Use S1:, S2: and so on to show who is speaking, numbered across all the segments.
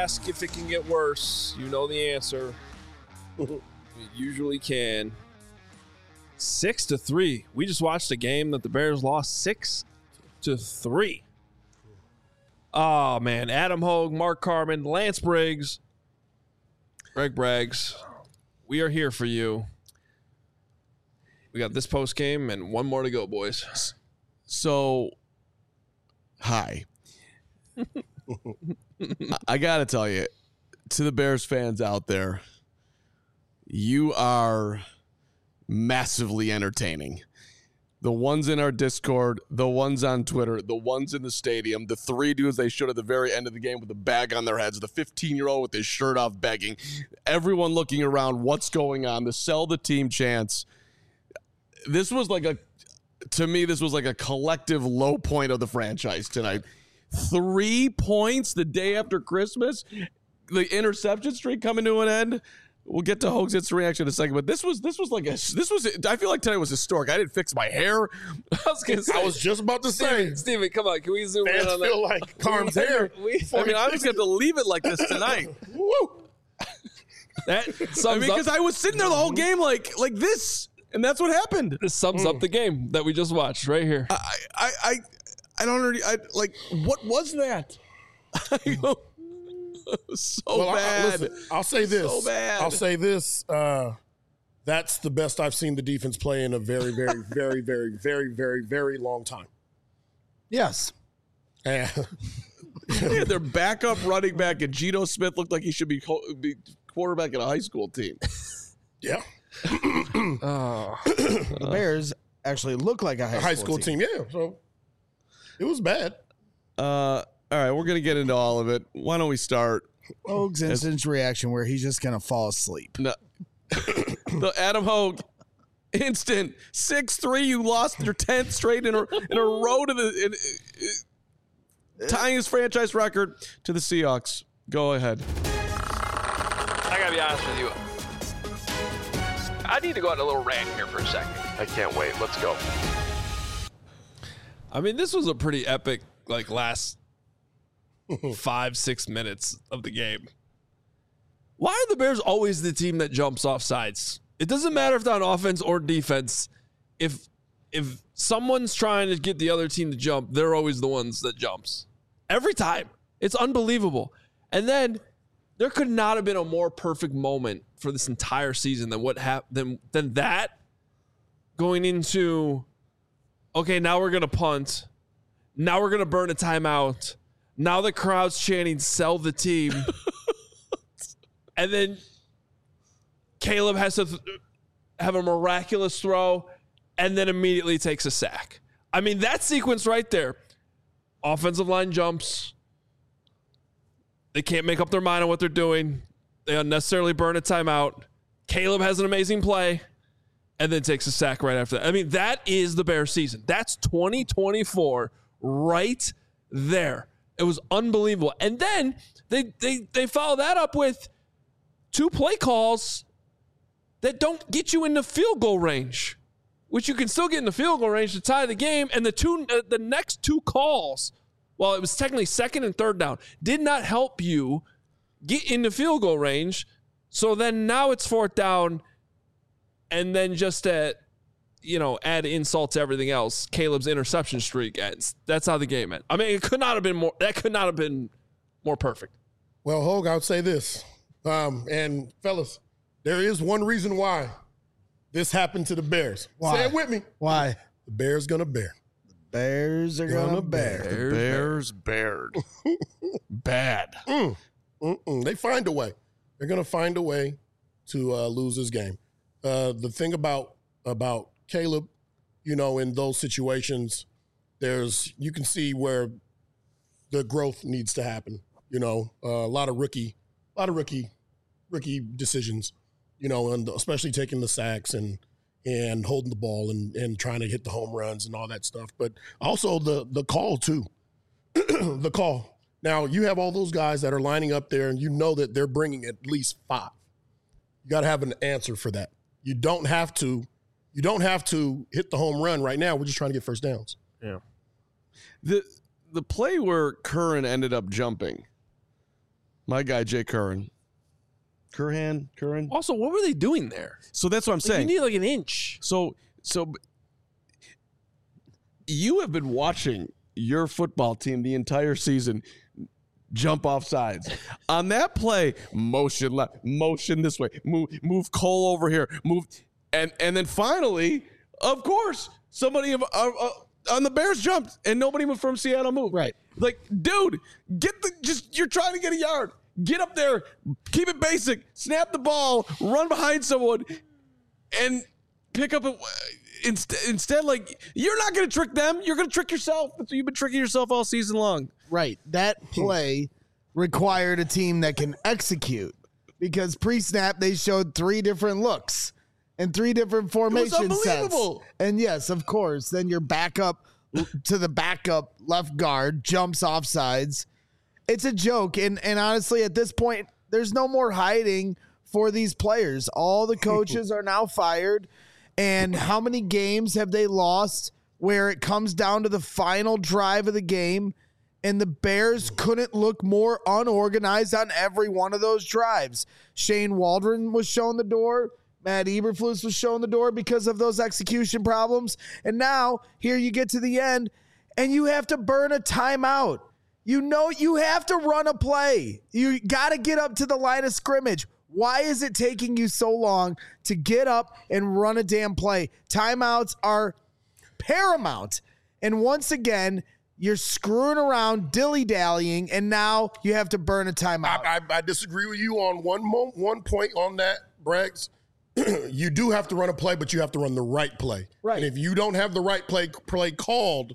S1: ask if it can get worse. You know the answer. It usually can. 6-3. We just watched a game that the Bears lost 6-3. Oh, man. Adam Hogue, Mark Carman, Lance Briggs, Greg Braggs. We are here for you. We got this post game and one more to go, boys.
S2: So, hi. I got to tell you, to the Bears fans out there, you are massively entertaining. The ones in our Discord, the ones on Twitter, the ones in the stadium, the three dudes they showed at the very end of the game with a bag on their heads, the 15-year-old with his shirt off begging, everyone looking around, what's going on, the sell the team chants. This was like to me, this was like a collective low point of the franchise tonight. 3 points the day after Christmas, the interception streak coming to an end. We'll get to Hogue's instant reaction in a second, but this was I feel like tonight was historic. I didn't fix my hair.
S3: I was just about to say,
S1: Steven, come on, can we zoom in on that?
S3: feel like Carm's hair.
S2: I'm just going to leave it like this tonight.
S3: Woo!
S1: That sums
S2: because I was sitting there the whole game like this, and that's what happened.
S1: This sums up the game that we just watched right here.
S2: I don't already. What was that? So bad.
S3: Listen, I'll say this.
S2: So bad.
S3: I'll say this. That's the best I've seen the defense play in a very, very, very, very, very, very, very long time.
S4: Yes.
S2: They had their backup running back, and Geno Smith looked like he should be quarterback in a high school team.
S3: Yeah.
S4: The Bears actually look like a high school team.
S3: Yeah. So it was bad.
S2: All right, we're going to get into all of it. Why don't we start?
S4: Hogue's instant reaction where he's just going to fall asleep.
S2: No. The Adam Hogue instant 6-3. You lost your 10th straight in a row to tying his franchise record to the Seahawks. Go ahead.
S5: I got to be honest with you. I need to go on a little rant here for a second. I can't wait. Let's go.
S1: I mean, this was a pretty epic, last 5-6 minutes of the game. Why are the Bears always the team that jumps off sides? It doesn't matter if they're on offense or defense. If someone's trying to get the other team to jump, they're always the ones that jumps. Every time. It's unbelievable. And then there could not have been a more perfect moment for this entire season than what happened than that going into, okay, now we're going to punt. Now we're going to burn a timeout. Now the crowd's chanting, sell the team. And then Caleb has to have a miraculous throw and then immediately takes a sack. I mean, that sequence right there. Offensive line jumps. They can't make up their mind on what they're doing. They unnecessarily burn a timeout. Caleb has an amazing play and then takes a sack right after that. I mean, that is the Bears season. That's 2024 right there. It was unbelievable. And then they follow that up with 2 play calls that don't get you into field goal range, which you can still get in the field goal range to tie the game. And the next 2 calls, while it was technically 2nd and 3rd down, did not help you get into field goal range. So then now it's 4th down, and then just add insult to everything else. Caleb's interception streak ends. That's how the game ended. I mean, it could not have been more. That could not have been more perfect.
S3: Well, Hogue, I would say this, and fellas, there is one reason why this happened to the Bears.
S4: Why?
S3: Say it with me.
S4: Why?
S3: The Bears gonna bear.
S4: The Bears are going to bear.
S2: The Bears bared. Bad.
S3: They find a way. They're gonna find a way to lose this game. The thing about Caleb, in those situations, you can see where the growth needs to happen. A lot of rookie decisions, and especially taking the sacks and holding the ball and trying to hit the home runs and all that stuff. But also the call too, the call. Now you have all those guys that are lining up there, and you know that they're bringing at least 5. You got to have an answer for that. You don't have to hit the home run right now. We're just trying to get first downs.
S2: Yeah. The play where Curran ended up jumping, My guy, Jay Curran. Curran.
S1: Also, what were they doing there?
S2: So that's what I'm saying.
S1: You need like an inch.
S2: So you have been watching your football team the entire season jump off sides. On that play, motion left, motion this way, move Cole over here, move, and then finally, of course, somebody on the Bears jumped and nobody from Seattle moved.
S4: Right.
S2: Like, dude, you're trying to get a yard. Get up there, keep it basic, snap the ball, run behind someone, and pick up instead, like, you're not going to trick them. You're going to trick yourself. You've been tricking yourself all season long.
S4: Right. That play required a team that can execute, because pre-snap they showed 3 different looks and 3 different formation sets. And yes, of course, then your backup to the backup left guard jumps off sides. It's a joke. And honestly, at this point, there's no more hiding for these players. All the coaches are now fired. And how many games have they lost where it comes down to the final drive of the game and the Bears couldn't look more unorganized on every one of those drives? Shane Waldron was shown the door. Matt Eberflus was shown the door because of those execution problems. And now here you get to the end and you have to burn a timeout. You know you have to run a play. You got to get up to the line of scrimmage. Why is it taking you so long to get up and run a damn play? Timeouts are paramount. And once again, you're screwing around, dilly-dallying, and now you have to burn a timeout.
S3: I disagree with you on one point on that, Braggs. You do have to run a play, but you have to run the right play.
S4: Right.
S3: And if you don't have the right play called,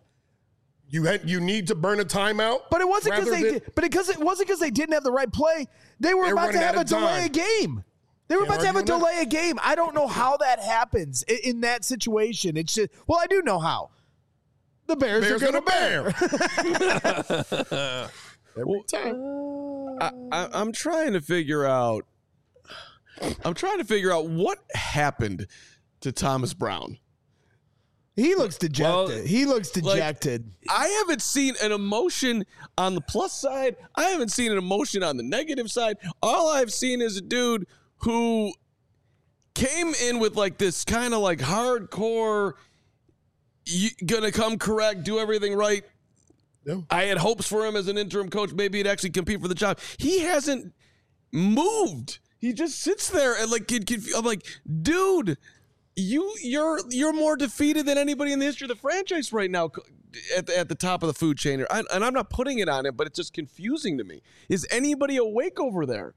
S3: you need to burn a timeout.
S4: But it wasn't because they didn't have the right play. They were about to have a delay a game. They were about to have a delay a game. I don't know how that happens in that situation. It's just, well, I do know how. The Bears are going to bear.
S3: Every time.
S2: I'm trying to figure out what happened to Thomas Brown.
S4: He looks dejected.
S1: Well,
S4: he looks dejected.
S2: I haven't seen an emotion on the plus side. I haven't seen an emotion on the negative side. All I've seen is a dude who came in with like this kind of like hardcore, gonna come correct, do everything right. Yeah. I had hopes for him as an interim coach. Maybe he'd actually compete for the job. He hasn't moved. He just sits there and like, I'm like, dude, you're more defeated than anybody in the history of the franchise right now at the top of the food chain. And I'm not putting it on him, but it's just confusing to me. Is anybody awake over there?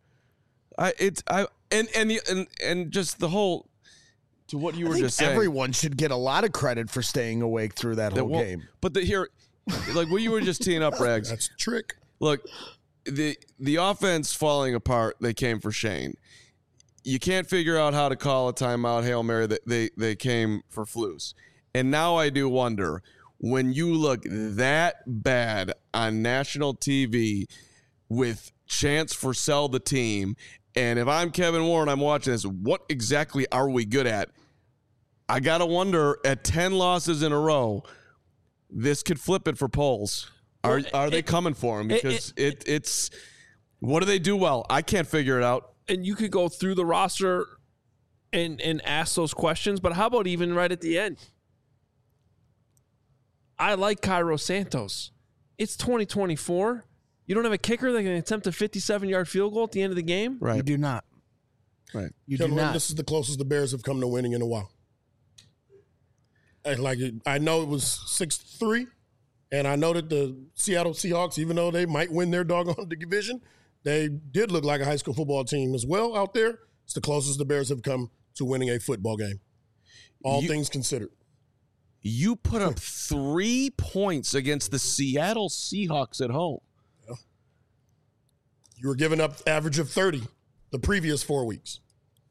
S2: And just the whole, to what you were just saying.
S4: Everyone should get a lot of credit for staying awake through that whole game.
S2: But like what you were just teeing up, Rags.
S3: That's a trick.
S2: Look, the offense falling apart, they came for Shane. You can't figure out how to call a timeout, Hail Mary, they came for Flus. And now I do wonder, when you look that bad on national TV with chance for sell the team, and if I'm Kevin Warren, I'm watching this, what exactly are we good at? I got to wonder, at 10 losses in a row, this could flip it for polls. Are they coming for him? Because it's what do they do well? I can't figure it out.
S1: And you could go through the roster and ask those questions, but how about even right at the end? I like Cairo Santos. It's 2024. You don't have a kicker that can attempt a 57-yard field goal at the end of the game?
S2: Right.
S4: You do not.
S2: Right.
S4: You do not.
S3: This is the closest the Bears have come to winning in a while. I know it was 6-3, and I know that the Seattle Seahawks, even though they might win their doggone division, they did look like a high school football team as well out there. It's the closest the Bears have come to winning a football game, all things considered.
S2: You put up 3 points against the Seattle Seahawks at home.
S3: Yeah. You were giving up average of 30 the previous 4 weeks.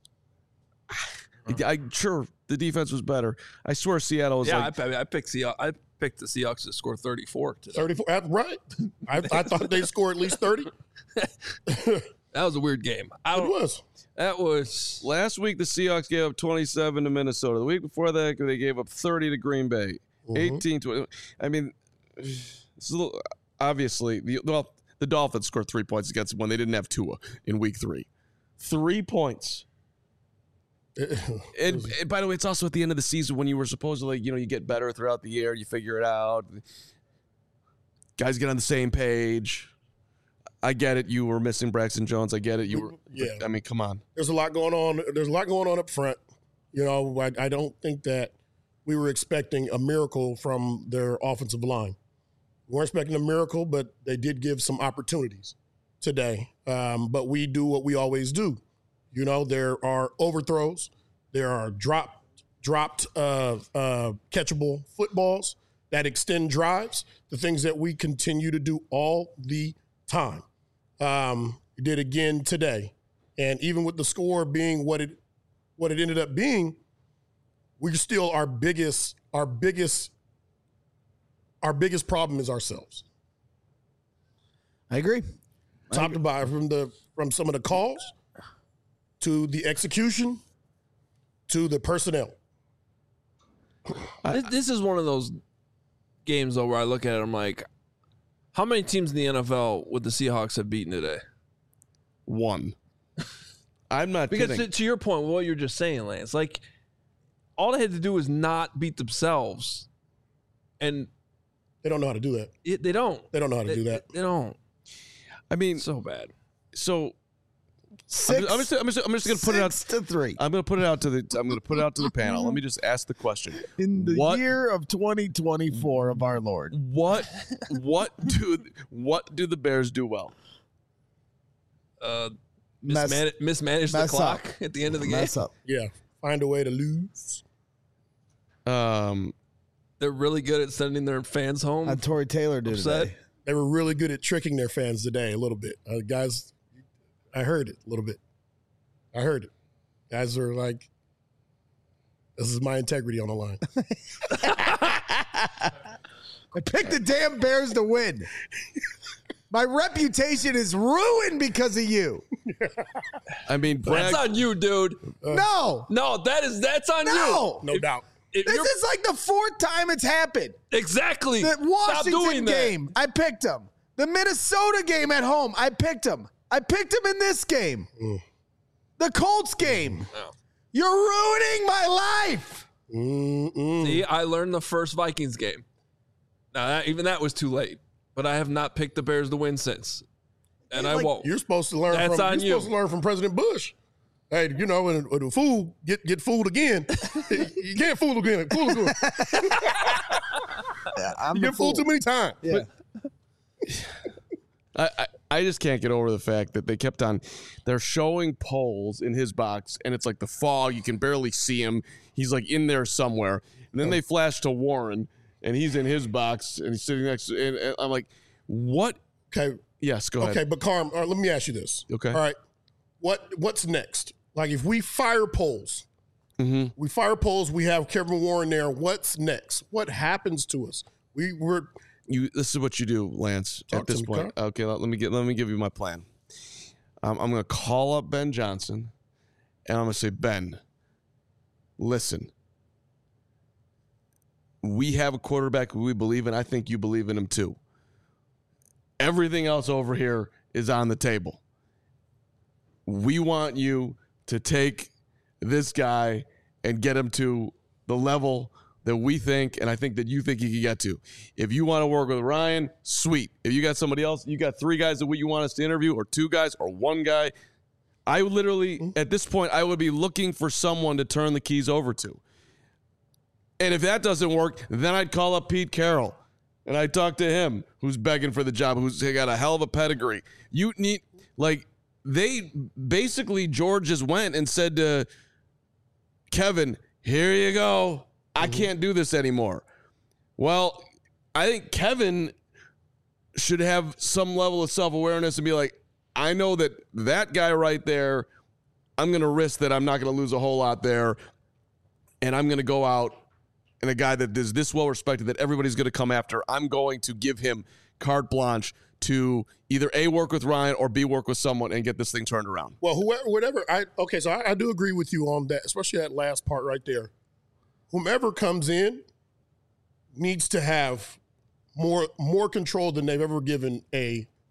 S2: Sure, the defense was better. I swear Seattle was
S1: I picked the Seahawks to score 34 today.
S3: 34, right. I thought they'd score at least 30.
S1: That was a weird game. That was.
S2: Last week, the Seahawks gave up 27 to Minnesota. The week before that, they gave up 30 to Green Bay. 18-20. I mean, it's a little, obviously, the The Dolphins scored 3 points against them when they didn't have Tua in week 3. 3 points. And by the way, it's also at the end of the season when you were supposedly, you get better throughout the year, you figure it out. Guys get on the same page. I get it. You were missing Braxton Jones. I get it. You were. Yeah. I mean, come on.
S3: There's a lot going on. There's a lot going on up front. I don't think that we were expecting a miracle from their offensive line. We weren't expecting a miracle, but they did give some opportunities today. But we do what we always do. There are overthrows. There are dropped catchable footballs that extend drives, the things that we continue to do all the time. We did again today. And even with the score being what it ended up being, we're still our biggest problem is ourselves.
S4: I agree.
S3: Top to bottom, from some of the calls to the execution to the personnel.
S1: This is one of those games, though, where I look at it, I'm like, how many teams in the NFL would the Seahawks have beaten today?
S2: 1. I'm not
S1: because
S2: kidding.
S1: To your point, what you're just saying, Lance, like, all they had to do was not beat themselves, and
S3: they don't know how to do that.
S1: They don't.
S3: They don't know how to do that.
S1: They don't.
S2: I mean,
S1: so bad.
S2: So I'm just going to put it out
S4: to 3.
S2: I'm going to put it out to the panel. Let me just ask the question.
S4: In the year of 2024 of our Lord,
S2: what do the Bears do well?
S1: Mismanage the clock up at the end of the game.
S4: Mess up.
S3: Yeah, find a way to lose.
S1: They're really good at sending their fans home.
S4: Tory Taylor did today.
S3: They were really good at tricking their fans today a little bit. Guys, I heard it a little bit. I heard it. Guys are like, this is my integrity on the line.
S4: I picked the damn Bears to win. My reputation is ruined because of you.
S2: I mean,
S1: that's on you, dude.
S4: No,
S1: that's on you.
S3: No doubt.
S4: This is like the 4th time it's happened.
S1: Exactly.
S4: The Washington game, I picked them. The Minnesota game at home, I picked them. I picked them in this game. The Colts game.
S1: Oh.
S4: You're ruining my life.
S1: See, I learned the first Vikings game. Now, even that was too late. But I have not picked the Bears to win since. And I won't.
S3: You're supposed to learn supposed to learn from President Bush. Hey, when a fool get fooled again, you can't fool again. Fool again. You get fooled too many times.
S4: Yeah.
S2: I just can't get over the fact that they kept on. They're showing Poles in his box, and it's like the fog. You can barely see him. He's like in there somewhere. And then they flash to Warren, and he's in his box, and he's sitting next to. And I'm like, what?
S3: Okay.
S2: Yes, go ahead.
S3: Okay, but Carm, all right, let me ask you this.
S2: Okay.
S3: All right. What's next? Like, if we fire Poles, we have Kevin Warren there. What's next? What happens to us?
S2: This is what you do, Lance. At this point, okay. Let me give you my plan. I'm going to call up Ben Johnson, and I'm going to say, Ben, listen. We have a quarterback who we believe in. I think you believe in him too. Everything else over here is on the table. We want you to take this guy and get him to the level that we think, and I think that you think he can get to. If you want to work with Ryan, sweet. If you got somebody else, you got 3 guys that you want us to interview, or 2 guys, or 1 guy. I literally, at this point, I would be looking for someone to turn the keys over to. And if that doesn't work, then I'd call up Pete Carroll, and I'd talk to him, who's begging for the job, who's got a hell of a pedigree. You need, they basically, George just went and said to Kevin, here you go. I can't do this anymore. Well, I think Kevin should have some level of self-awareness and be like, I know that guy right there, I'm going to risk that I'm not going to lose a whole lot there, and I'm going to go out, and a guy that is this well-respected that everybody's going to come after, I'm going to give him carte blanche to either A, work with Ryan, or B, work with someone and get this thing turned around.
S3: Well, whatever. So I do agree with you on that, especially that last part right there. Whomever comes in needs to have more control than they've ever given a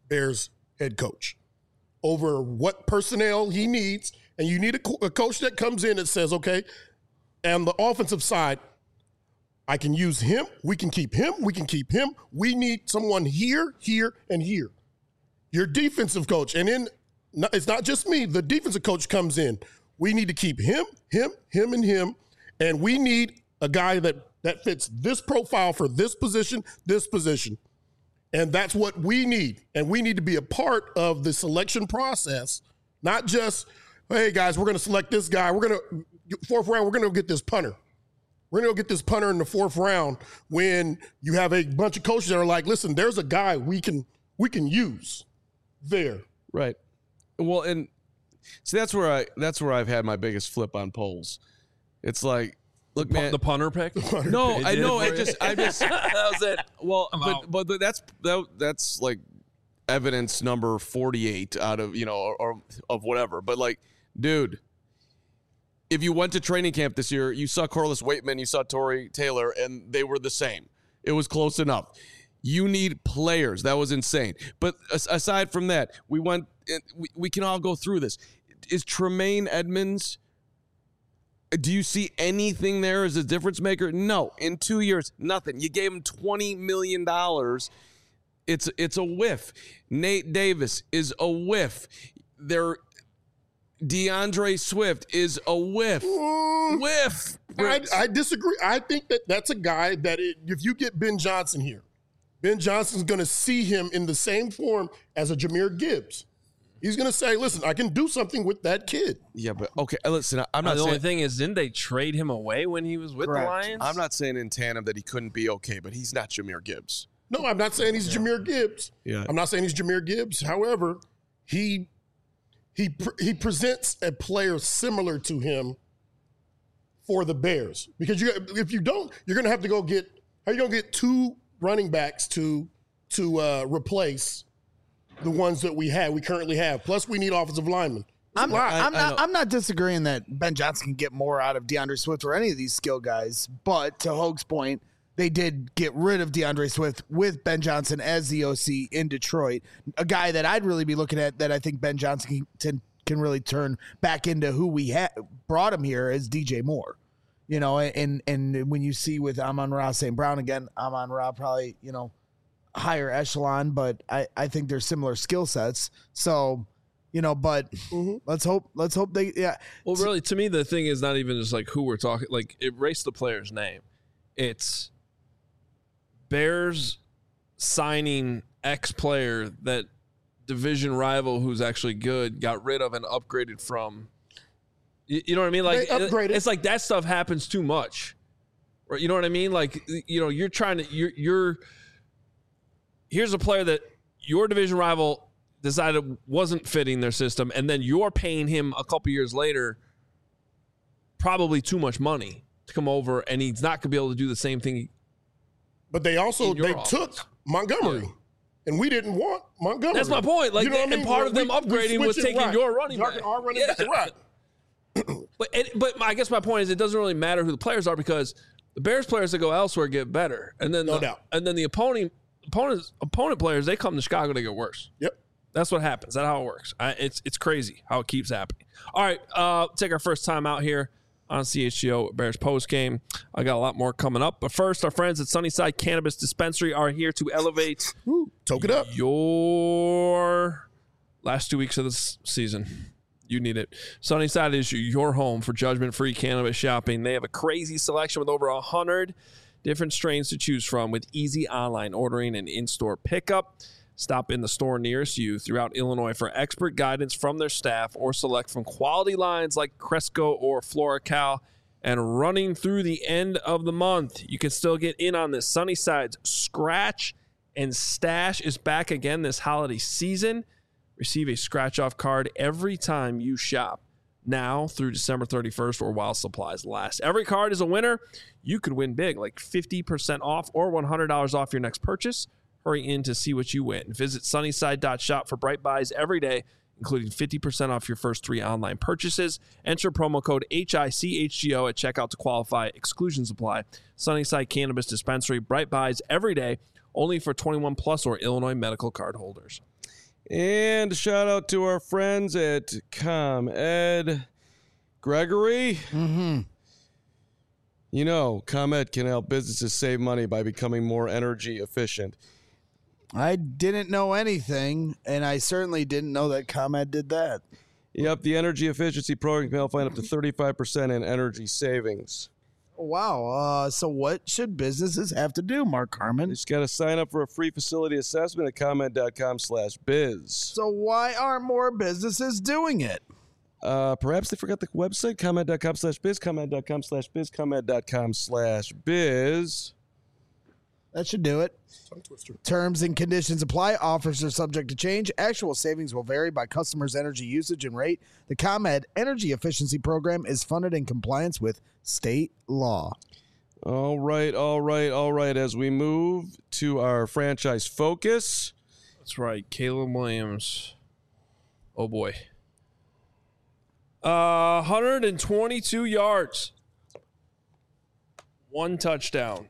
S3: Bears head coach over what personnel he needs. And you need a coach that comes in and says, okay, and the offensive side, I can use him. We can keep him. We can keep him. We need someone here, here, and here. Your defensive coach, and then it's not just me. The defensive coach comes in. We need to keep him, and him. And we need a guy that fits this profile for this position. And that's what we need. And we need to be a part of the selection process, not just, hey, guys, we're going to select this guy. We're going to, fourth round, we're going to get this punter. We're going to go get this punter in the fourth round when you have a bunch of coaches that are like, listen, there's a guy we can use there.
S2: Right. Well, and see, that's where I've had my biggest flip on polls. It's like, look, man,
S1: the punter pick.
S2: No, I know. I just
S1: that was it.
S2: Well, but that's like evidence number 48 out of or of whatever. But like, dude, if you went to training camp this year, you saw Corliss Waitman, you saw Torrey Taylor, and they were the same. It was close enough. You need players. That was insane. But aside from that, we can all go through this. Is Tremaine Edmonds, do you see anything there as a difference maker? No. In 2 years, nothing. You gave him $20 million. It's a whiff. Nate Davis is a whiff. DeAndre Swift is a whiff. Whiff.
S3: I disagree. I think that's a guy that if you get Ben Johnson here, Ben Johnson's going to see him in the same form as a Jahmyr Gibbs. He's going to say, listen, I can do something with that kid.
S2: Yeah, but okay, listen, I'm not saying.
S1: The only thing is, didn't they trade him away when he was with the Lions?
S2: I'm not saying in tandem that he couldn't be okay, but he's not Jahmyr Gibbs.
S3: No, I'm not saying he's Jahmyr Gibbs.
S2: Yeah.
S3: I'm not saying he's Jahmyr Gibbs. However, he presents a player similar to him for the Bears. Because if you don't, you're going to have to go get – how are you going to get two running backs to replace the ones that we currently have? Plus, we need offensive linemen.
S4: I'm not disagreeing that Ben Johnson can get more out of DeAndre Swift or any of these skill guys, but to Hoge's point, they did get rid of DeAndre Swift with Ben Johnson as the OC in Detroit, a guy that I'd really be looking at that I think Ben Johnson can really turn back into who we brought him here as DJ Moore. And when you see with Amon-Ra St. Brown again, Amon-Ra probably, higher echelon, but I think they're similar skill sets. So, but let's hope they, yeah.
S1: Well, really, to me, the thing is not even just like who we're talking, like erase the player's name. It's Bears signing X player that division rival who's actually good got rid of and upgraded from. You know what I mean? Like it's like that stuff happens too much. Right? You know what I mean? Like you're trying to here's a player that your division rival decided wasn't fitting their system, and then you're paying him a couple years later probably too much money to come over, and he's not going to be able to do the same thing.
S3: But they took Montgomery, and we didn't want Montgomery.
S1: That's my point. Like, and part of them upgrading was taking your running back.
S3: Our running back, right.
S1: But I guess my point is it doesn't really matter who the players are because the Bears players that go elsewhere get better, and then
S3: no doubt.
S1: And then the opponent players, they come to Chicago, they get worse.
S3: Yep.
S1: That's what happens. That's how it works. It's crazy how it keeps happening. All right, take our first time out here on CHGO Bears post game. I got a lot more coming up, but first, our friends at Sunnyside Cannabis Dispensary are here to elevate
S3: toke it up
S1: your last 2 weeks of this season. You need it. Sunnyside is your home for judgment-free cannabis shopping. They have a crazy selection with over 100 different strains to choose from with easy online ordering and in-store pickup. Stop in the store nearest you throughout Illinois for expert guidance from their staff or select from quality lines like Cresco or FloraCal. And running through the end of the month, you can still get in on this. Sunnyside's Scratch and Stash is back again this holiday season. Receive a scratch-off card every time you shop, now through December 31st or while supplies last. Every card is a winner. You could win big, like 50% off or $100 off your next purchase. Hurry in to see what you win. Visit sunnyside.shop for bright buys every day, including 50% off your first 3 online purchases. Enter promo code HICHGO at checkout to qualify. Exclusions apply. Sunnyside Cannabis Dispensary, bright buys every day, only for 21 plus or Illinois medical card holders.
S2: And a shout out to our friends at ComEd. Gregory?
S4: Mm-hmm.
S2: You know, ComEd can help businesses save money by becoming more energy efficient.
S4: I didn't know anything, and I certainly didn't know that ComEd did that.
S2: Yep, the energy efficiency program can help find up to 35% in energy savings.
S4: Wow. So what should businesses have to do, Mark Carmen?
S2: You just got to sign up for a free facility assessment at ComEd.com/biz.
S4: So why aren't more businesses doing it?
S2: Perhaps they forgot the website, ComEd.com/biz, ComEd.com/biz, ComEd.com/biz.
S4: That should do it. Terms and conditions apply. Offers are subject to change. Actual savings will vary by customers' energy usage and rate. The ComEd Energy Efficiency Program is funded in compliance with state law.
S2: All right. As we move to our franchise focus.
S1: That's right. Caleb Williams. Oh, boy. 122 yards. 1 touchdown.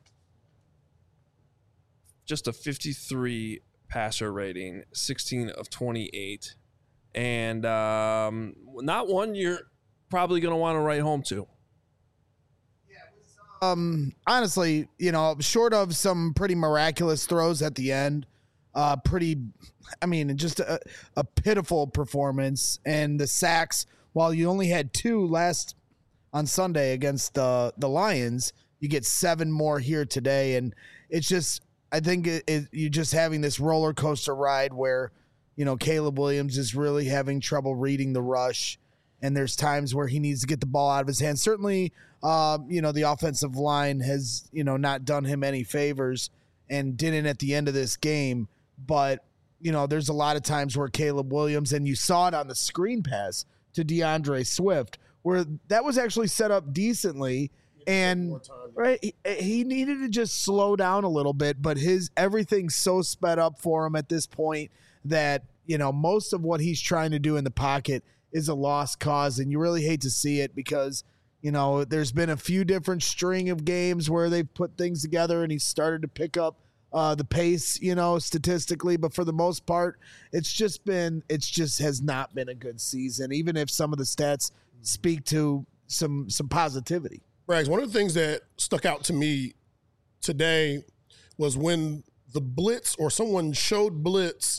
S1: Just a 53 passer rating, 16 of 28. And not one you're probably going to want to write home to.
S4: Honestly, short of some pretty miraculous throws at the end, just a pitiful performance. And the sacks, while you only had 2 last on Sunday against the Lions, you get 7 more here today. And it's just, I think you're just having this roller coaster ride where, Caleb Williams is really having trouble reading the rush. And there's times where he needs to get the ball out of his hands. Certainly, the offensive line has, not done him any favors and didn't at the end of this game. But, there's a lot of times where Caleb Williams, and you saw it on the screen pass to DeAndre Swift, where that was actually set up decently. And right, he needed to just slow down a little bit, but everything's so sped up for him at this point that, most of what he's trying to do in the pocket is a lost cause. And you really hate to see it because, there's been a few different string of games where they've put things together and he's started to pick up the pace, statistically. But for the most part, it just has not been a good season, even if some of the stats speak to some positivity.
S3: Rags, one of the things that stuck out to me today was when the blitz or someone showed blitz,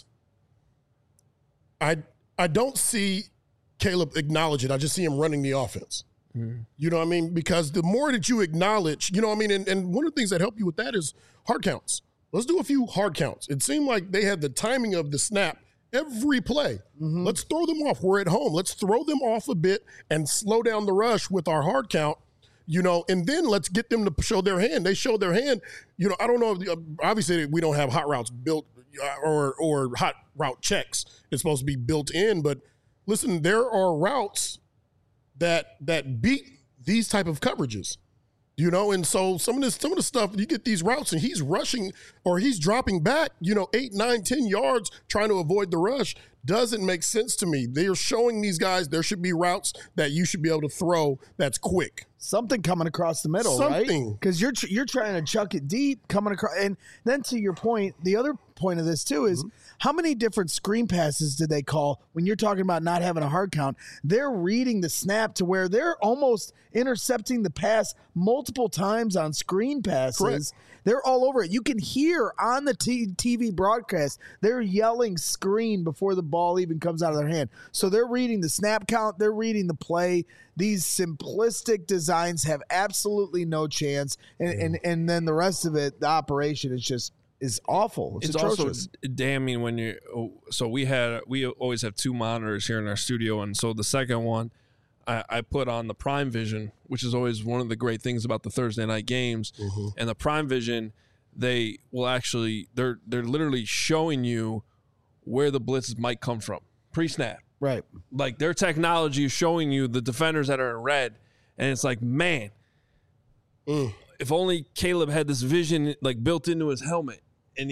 S3: I don't see Caleb acknowledge it. I just see him running the offense. Mm-hmm. You know what I mean? Because the more that you acknowledge, and one of the things that help you with that is hard counts. Let's do a few hard counts. It seemed like they had the timing of the snap every play. Mm-hmm. Let's throw them off. We're at home. Let's throw them off a bit and slow down the rush with our hard count. And then let's get them to show their hand. They show their hand. I don't know. Obviously, we don't have hot routes built or hot route checks. It's supposed to be built in. But listen, there are routes that beat these type of coverages. And so some of the stuff, you get these routes and he's rushing or he's dropping back, 8, 9, 10 yards trying to avoid the rush doesn't make sense to me. They are showing these guys there should be routes that you should be able to throw that's quick.
S4: Something coming across the middle, right? Because you're trying to chuck it deep, coming across. And then to your point, the other point of this too is how many different screen passes did they call when you're talking about not having a hard count? They're reading the snap to where they're almost intercepting the pass multiple times on screen passes.
S3: Correct.
S4: They're all over it. You can hear on the TV broadcast, they're yelling screen before the ball even comes out of their hand. So they're reading the snap count. They're reading the play. These simplistic designs have absolutely no chance. And then the rest of it, the operation is awful. It's atrocious.
S1: Also damning when we always have 2 monitors here in our studio. And so the second one, I put on the Prime Vision, which is always one of the great things about the Thursday night games. Mm-hmm. And the Prime Vision, they will actually they're literally showing you where the blitzes might come from pre-snap.
S4: Right.
S1: Like their technology is showing you the defenders that are in red, and it's like, man, if only Caleb had this vision like built into his helmet, and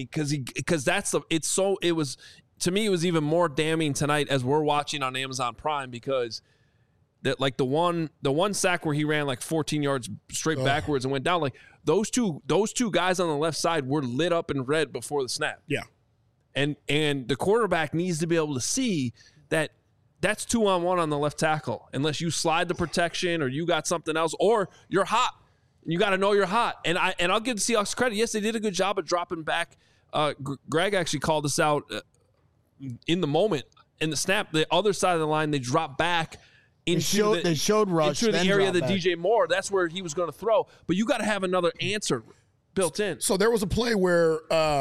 S1: it was to me it was even more damning tonight as we're watching on Amazon Prime because that like the one sack where he ran like 14 yards straight backwards and went down, like those two guys on the left side were lit up in red before the snap.
S3: Yeah.
S1: And the quarterback needs to be able to see that that's 2-on-1 on the left tackle, unless you slide the protection or you got something else, or you're hot. You got to know you're hot. And I'll give the Seahawks credit. Yes, they did a good job of dropping back. Greg actually called this out in the moment. In the snap, the other side of the line, they dropped back into
S4: they showed rush
S1: into the area that
S4: back.
S1: DJ Moore. That's where he was going to throw. But you got to have another answer built in.
S3: So there was a play where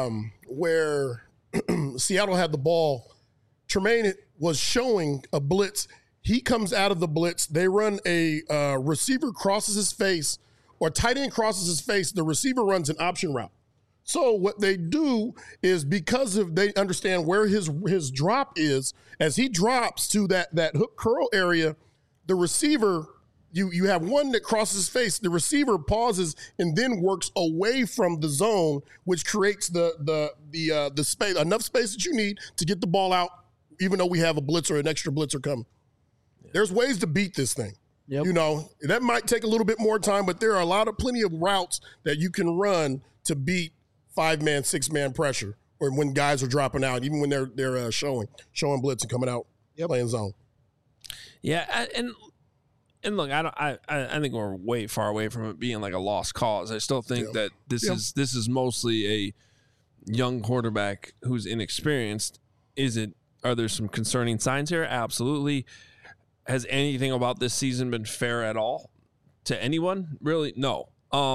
S3: Seattle had the ball. Tremaine was showing a blitz. He comes out of the blitz. They run a receiver crosses his face, or tight end crosses his face. The receiver runs an option route. So what they do is, because of they understand where his drop is, as he drops to that hook curl area, the receiver, you have one that crosses his face. The receiver pauses and then works away from the zone, which creates the space, enough space that you need to get the ball out, even though we have a blitzer, an extra blitzer coming. There's ways to beat this thing.
S4: Yep.
S3: You know, that might take a little bit more time, but there are plenty of routes that you can run to beat 5-man, 6-man pressure, or when guys are dropping out, even when they're showing blitz and coming out playing zone.
S1: Yeah, and look, I think we're way far away from it being like a lost cause. I still think that this is mostly a young quarterback who's inexperienced. Are there some concerning signs here? Absolutely. Has anything about this season been fair at all to anyone? Really? No.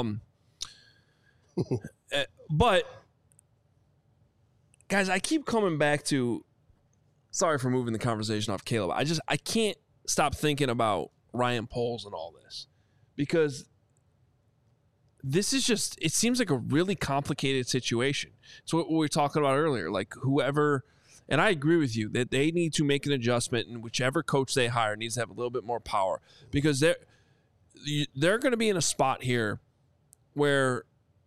S1: But guys, I keep coming back to, sorry for moving the conversation off Caleb. I can't stop thinking about Ryan Poles and all this, because this is just, it seems like a really complicated situation. It's what we were talking about earlier, like whoever, and I agree with you that they need to make an adjustment, and whichever coach they hire needs to have a little bit more power, because they're going to be in a spot here where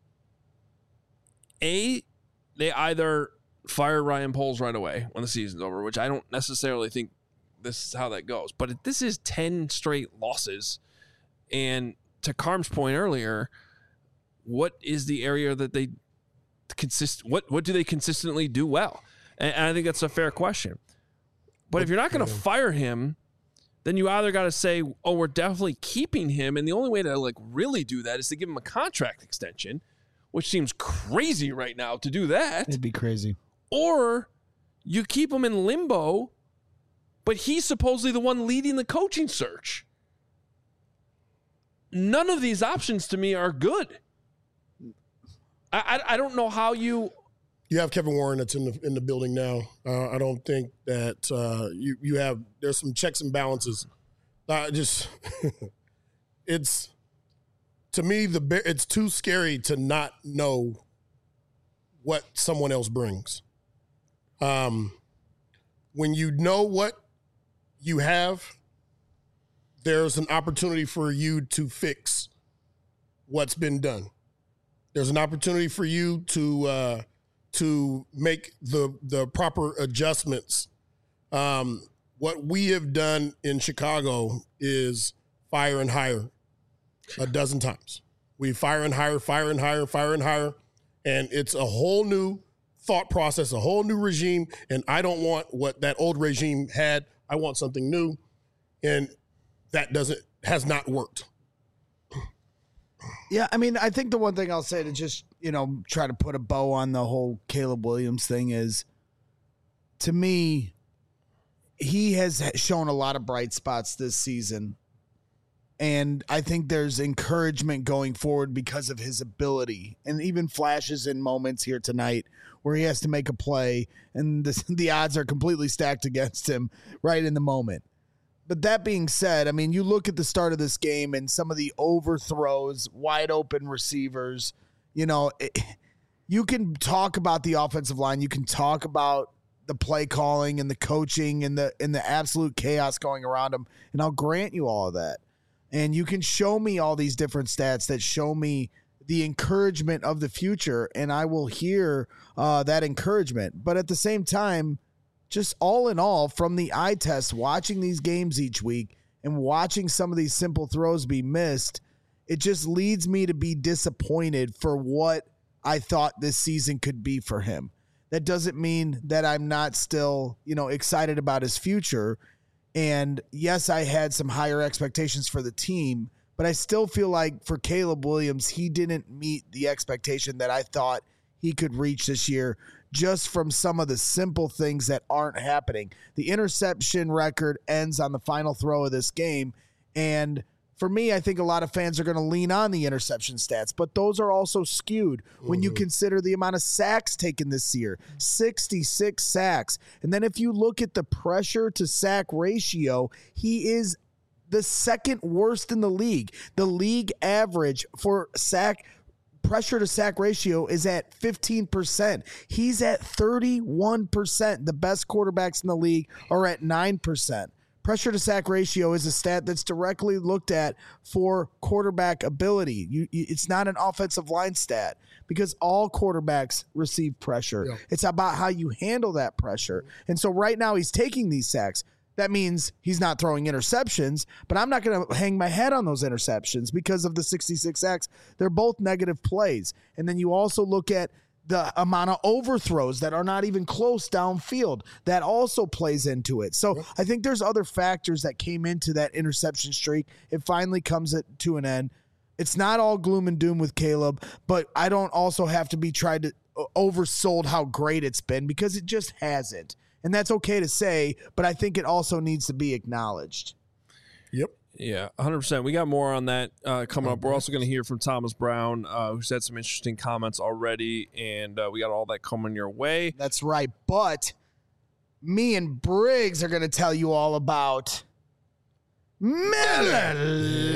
S1: they either fire Ryan Poles right away when the season's over, which I don't necessarily think this is how that goes. But this is 10 straight losses. And to Carm's point earlier, what is the area that they what do they consistently do well? And I think that's a fair question. But if you're not going to fire him, then you either got to say, oh, we're definitely keeping him. And the only way to like really do that is to give him a contract extension, which seems crazy right now to do that.
S4: It'd be crazy.
S1: Or you keep him in limbo, but he's supposedly the one leading the coaching search. None of these options to me are good. I don't know how you
S3: have Kevin Warren that's in the building now. I don't think that you have, there's some checks and balances. It's, to me, it's too scary to not know what someone else brings. When you know what you have, there's an opportunity for you to fix what's been done. There's an opportunity for you to make the proper adjustments. What we have done in Chicago is fire and hire a dozen times. We fire and hire, and it's a whole new thought process, a whole new regime, and I don't want what that old regime had. I want something new, and that has not worked.
S4: Yeah, I mean, I think the one thing I'll say to just, try to put a bow on the whole Caleb Williams thing is, to me, he has shown a lot of bright spots this season. And I think there's encouragement going forward because of his ability, and even flashes in moments here tonight where he has to make a play and the odds are completely stacked against him right in the moment. But that being said, I mean, you look at the start of this game and some of the overthrows, wide open receivers, you can talk about the offensive line. You can talk about the play calling and the coaching and the absolute chaos going around him. And I'll grant you all of that. And you can show me all these different stats that show me the encouragement of the future, and I will hear that encouragement. But at the same time, just all in all, from the eye test, watching these games each week and watching some of these simple throws be missed, it just leads me to be disappointed for what I thought this season could be for him. that doesn't mean that I'm not still, excited about his future. And yes, I had some higher expectations for the team, but I still feel like for Caleb Williams, he didn't meet the expectation that I thought he could reach this year, just from some of the simple things that aren't happening. The interception record ends on the final throw of this game. And for me, I think a lot of fans are going to lean on the interception stats, but those are also skewed when you consider the amount of sacks taken this year, 66 sacks. And then if you look at the pressure to sack ratio, he is the second worst in the league. The league average for pressure to sack ratio is at 15%. He's at 31%. The best quarterbacks in the league are at 9%. Pressure to sack ratio is a stat that's directly looked at for quarterback ability. It's not an offensive line stat because all quarterbacks receive pressure. Yeah. It's about how you handle that pressure. And so right now he's taking these sacks. That means he's not throwing interceptions, but I'm not going to hang my head on those interceptions because of the 66 sacks. They're both negative plays. And then you also look at the amount of overthrows that are not even close downfield. That also plays into it. So I think there's other factors that came into that interception streak. It finally comes to an end. It's not all gloom and doom with Caleb, but I don't also have to be tried to oversold how great it's been because it just hasn't. And that's okay to say, but I think it also needs to be acknowledged.
S3: Yep.
S1: Yeah, 100%. We got more on that coming up. We're also going to hear from Thomas Brown, who said some interesting comments already, and we got all that coming your way.
S4: That's right. But me and Briggs are going to tell you all about Miller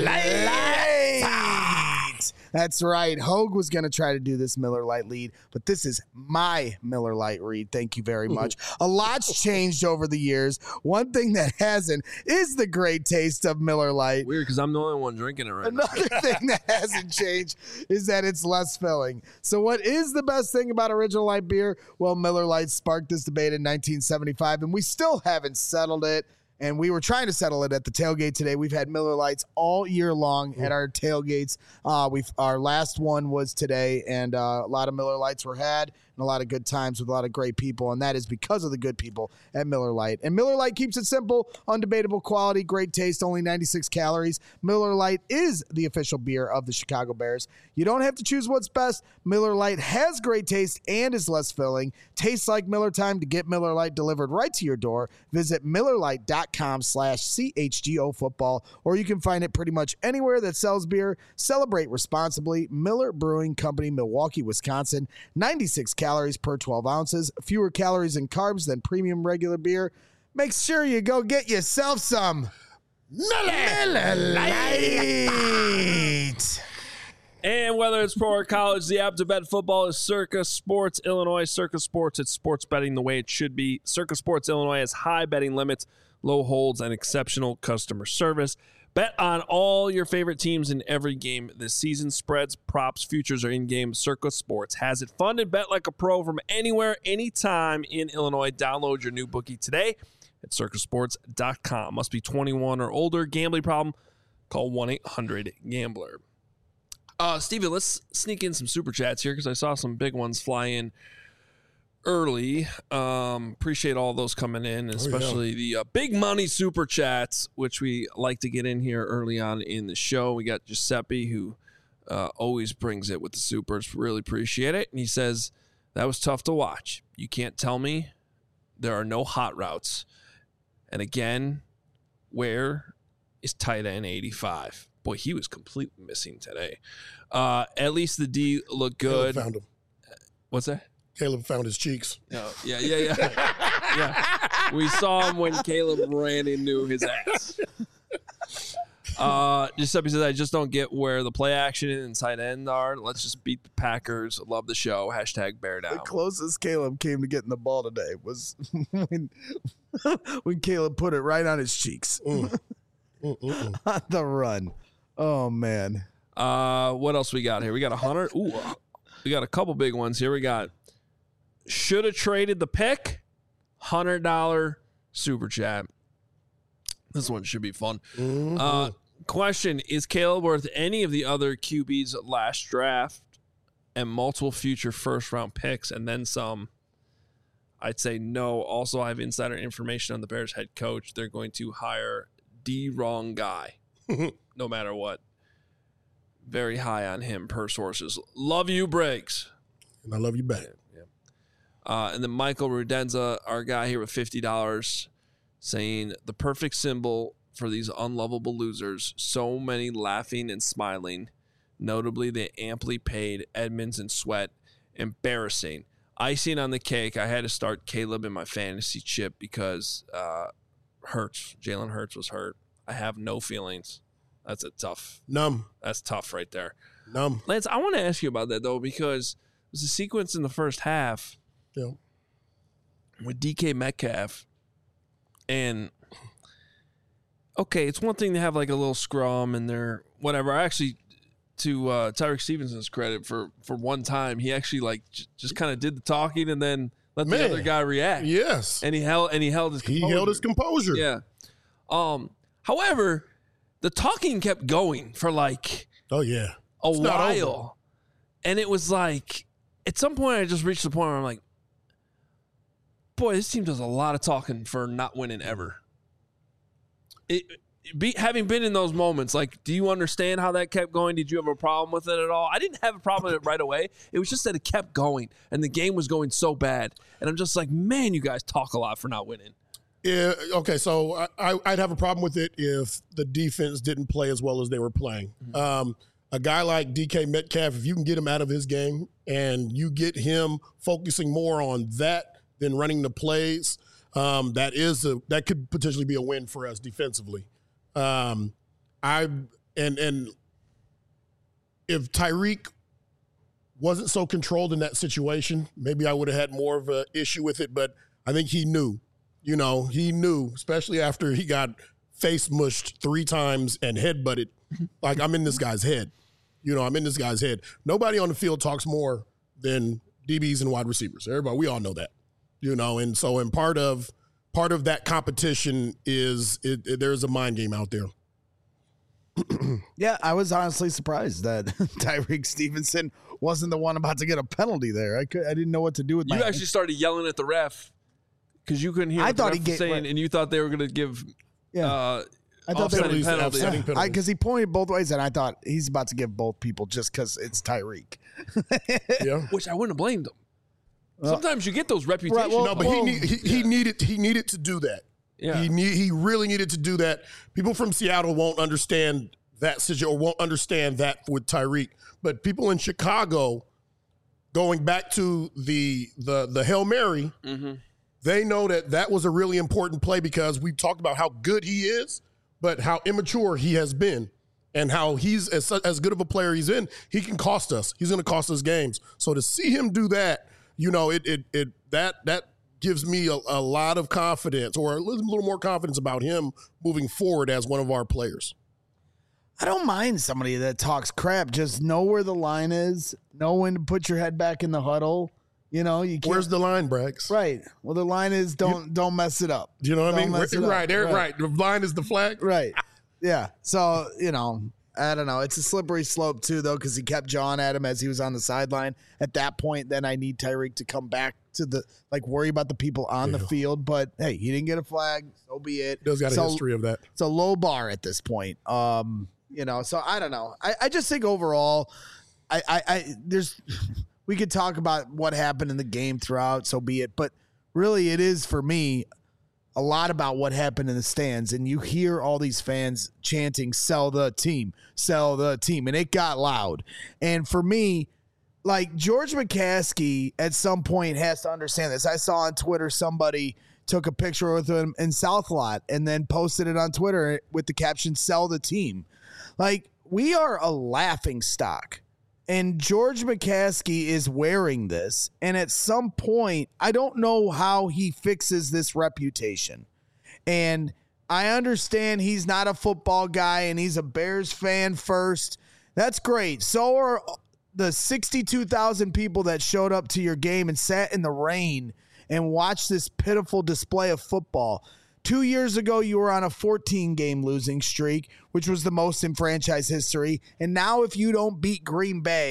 S4: Lite. That's right. Hogue was going to try to do this Miller Lite lead, but this is my Miller Lite read. Thank you very much. A lot's changed over the years. One thing that hasn't is the great taste of Miller Lite.
S1: Weird, because I'm the only one drinking it right now.
S4: Another thing that hasn't changed is that it's less filling. So what is the best thing about original light beer? Well, Miller Lite sparked this debate in 1975, and we still haven't settled it. And we were trying to settle it at the tailgate today. We've had Miller Lites all year long at our tailgates. Our last one was today, and a lot of Miller Lites were had, and a lot of good times with a lot of great people, and that is because of the good people at Miller Lite. And Miller Lite keeps it simple, undebatable quality, great taste, only 96 calories. Miller Lite is the official beer of the Chicago Bears. You don't have to choose what's best. Miller Lite has great taste and is less filling. Tastes like Miller time. To get Miller Lite delivered right to your door, visit MillerLite.com/CHGO football, or you can find it pretty much anywhere that sells beer. Celebrate responsibly. Miller Brewing Company, Milwaukee, Wisconsin. 96 calories per 12 ounces. Fewer calories and carbs than premium regular beer. Make sure you go get yourself some Miller Lite.
S1: And whether it's pro or college, the app to bet football is Circa Sports Illinois. Circa Sports, it's sports betting the way it should be. Circa Sports Illinois has high betting limits, low holds, and exceptional customer service. Bet on all your favorite teams in every game this season. Spreads, props, futures are in-game. Circa Sports has it. Fun and bet like a pro from anywhere, anytime in Illinois. Download your new bookie today at circasports.com. Must be 21 or older. Gambling problem? Call 1-800-GAMBLER. Steven, let's sneak in some super chats here because I saw some big ones fly in early. Appreciate all those coming in, especially the big money super chats, which we like to get in here early on in the show. We got Giuseppe, who always brings it with the supers. Really appreciate it. And he says, that was tough to watch. You can't tell me there are no hot routes. And again, where is tight end 85? Boy, he was completely missing today. At least the D looked good.
S3: Caleb found him.
S1: What's that?
S3: Caleb found his cheeks.
S1: Oh, yeah. Yeah. We saw him when Caleb ran into his ass. Giuseppe says, I just don't get where the play action and tight end are. Let's just beat the Packers. Love the show. Hashtag bear down.
S4: The closest Caleb came to getting the ball today was when Caleb put it right on his cheeks. On the run. Oh, man.
S1: What else we got here? We got 100. Ooh, we got a couple big ones here. We got should have traded the pick. $100 super chat. This one should be fun. Question, is Caleb worth any of the other QBs last draft and multiple future first-round picks and then some? I'd say no. Also, I have insider information on the Bears head coach. They're going to hire the wrong guy, no matter what. Very high on him per sources. Love you, Briggs.
S3: And I love you back.
S1: And then Michael Rudenza, our guy here with $50, saying the perfect symbol for these unlovable losers. So many laughing and smiling. Notably, the amply paid Edmonds and Sweat. Embarrassing. Icing on the cake, I had to start Caleb in my fantasy chip because Jalen Hurts was hurt. I have no feelings. That's a tough.
S3: Numb.
S1: That's tough right there.
S3: Numb.
S1: Lance, I want to ask you about that, though, because there's a sequence in the first half with DK Metcalf. And, okay, it's one thing to have like a little scrum and they're whatever. I actually, to Tyreek Stevenson's credit, for one time, he actually like just kind of did the talking and then let the other guy react.
S3: Yes.
S1: And he held his composure.
S3: He held his composure.
S1: Yeah. However, the talking kept going for like
S3: a
S1: while. And it was like, at some point I just reached the point where I'm like, boy, this team does a lot of talking for not winning ever. Having been in those moments, like, do you understand how that kept going? Did you have a problem with it at all? I didn't have a problem with it right away. It was just that it kept going, and the game was going so bad. And I'm just like, man, you guys talk a lot for not winning.
S3: Yeah, okay, so I'd have a problem with it if the defense didn't play as well as they were playing. Mm-hmm. A guy like DK Metcalf, if you can get him out of his game and you get him focusing more on that than running the plays, that could potentially be a win for us defensively. And if Tyreek wasn't so controlled in that situation, maybe I would have had more of an issue with it. But I think he knew, especially after he got face mushed 3 times and headbutted. Like, I'm in this guy's head. I'm in this guy's head. Nobody on the field talks more than DBs and wide receivers. Everybody, we all know that. And so, and part of that competition is there's a mind game out there.
S4: Yeah, I was honestly surprised that Tyreek Stevenson wasn't the one about to get a penalty there. I didn't know what to do with
S1: You actually started yelling at the ref because you couldn't hear what the ref was saying, and you thought they were going to give
S4: I thought
S1: offsetting penalty.
S4: Because he pointed both ways, and I thought he's about to give both people just because it's Tyreek.
S3: Yeah,
S1: which I wouldn't have blamed him. Sometimes you get those reputations.
S3: Right, but he needed to do that. Yeah, he really needed to do that. People from Seattle won't understand that situation or won't understand that with Tyreek. But people in Chicago, going back to the Hail Mary, they know that was a really important play because we've talked about how good he is, but how immature he has been. And how he's as good of a player he's in, he can cost us. He's going to cost us games. So to see him do that, that gives me a lot of confidence, or a little more confidence about him moving forward as one of our players.
S4: I don't mind somebody that talks crap. Just know where the line is. Know when to put your head back in the huddle. You can't.
S3: Where's the line, Brax?
S4: Right. Well, the line is don't mess it up.
S3: Do you know what I mean? Right. The line is the flag.
S4: Right. Yeah. So, I don't know. It's a slippery slope, too, though, because he kept jawing at him as he was on the sideline. At that point, then I need Tyreek to come back to worry about the people on the field. But, hey, he didn't get a flag. So be it.
S3: Does got a history of that.
S4: It's a low bar at this point. So I don't know. I just think overall, we could talk about what happened in the game throughout, so be it. But really, it is, for me, a lot about what happened in the stands, and you hear all these fans chanting, sell the team, and it got loud. And for me, like, George McCaskey at some point has to understand this. I saw on Twitter somebody took a picture with him in South Lot and then posted it on Twitter with the caption, sell the team. Like, we are a laughing stock. And George McCaskey is wearing this. And at some point, I don't know how he fixes this reputation. And I understand he's not a football guy and he's a Bears fan first. That's great. So are the 62,000 people that showed up to your game and sat in the rain and watched this pitiful display of football. 2 years ago, you were on a 14-game losing streak, which was the most in franchise history. And now if you don't beat Green Bay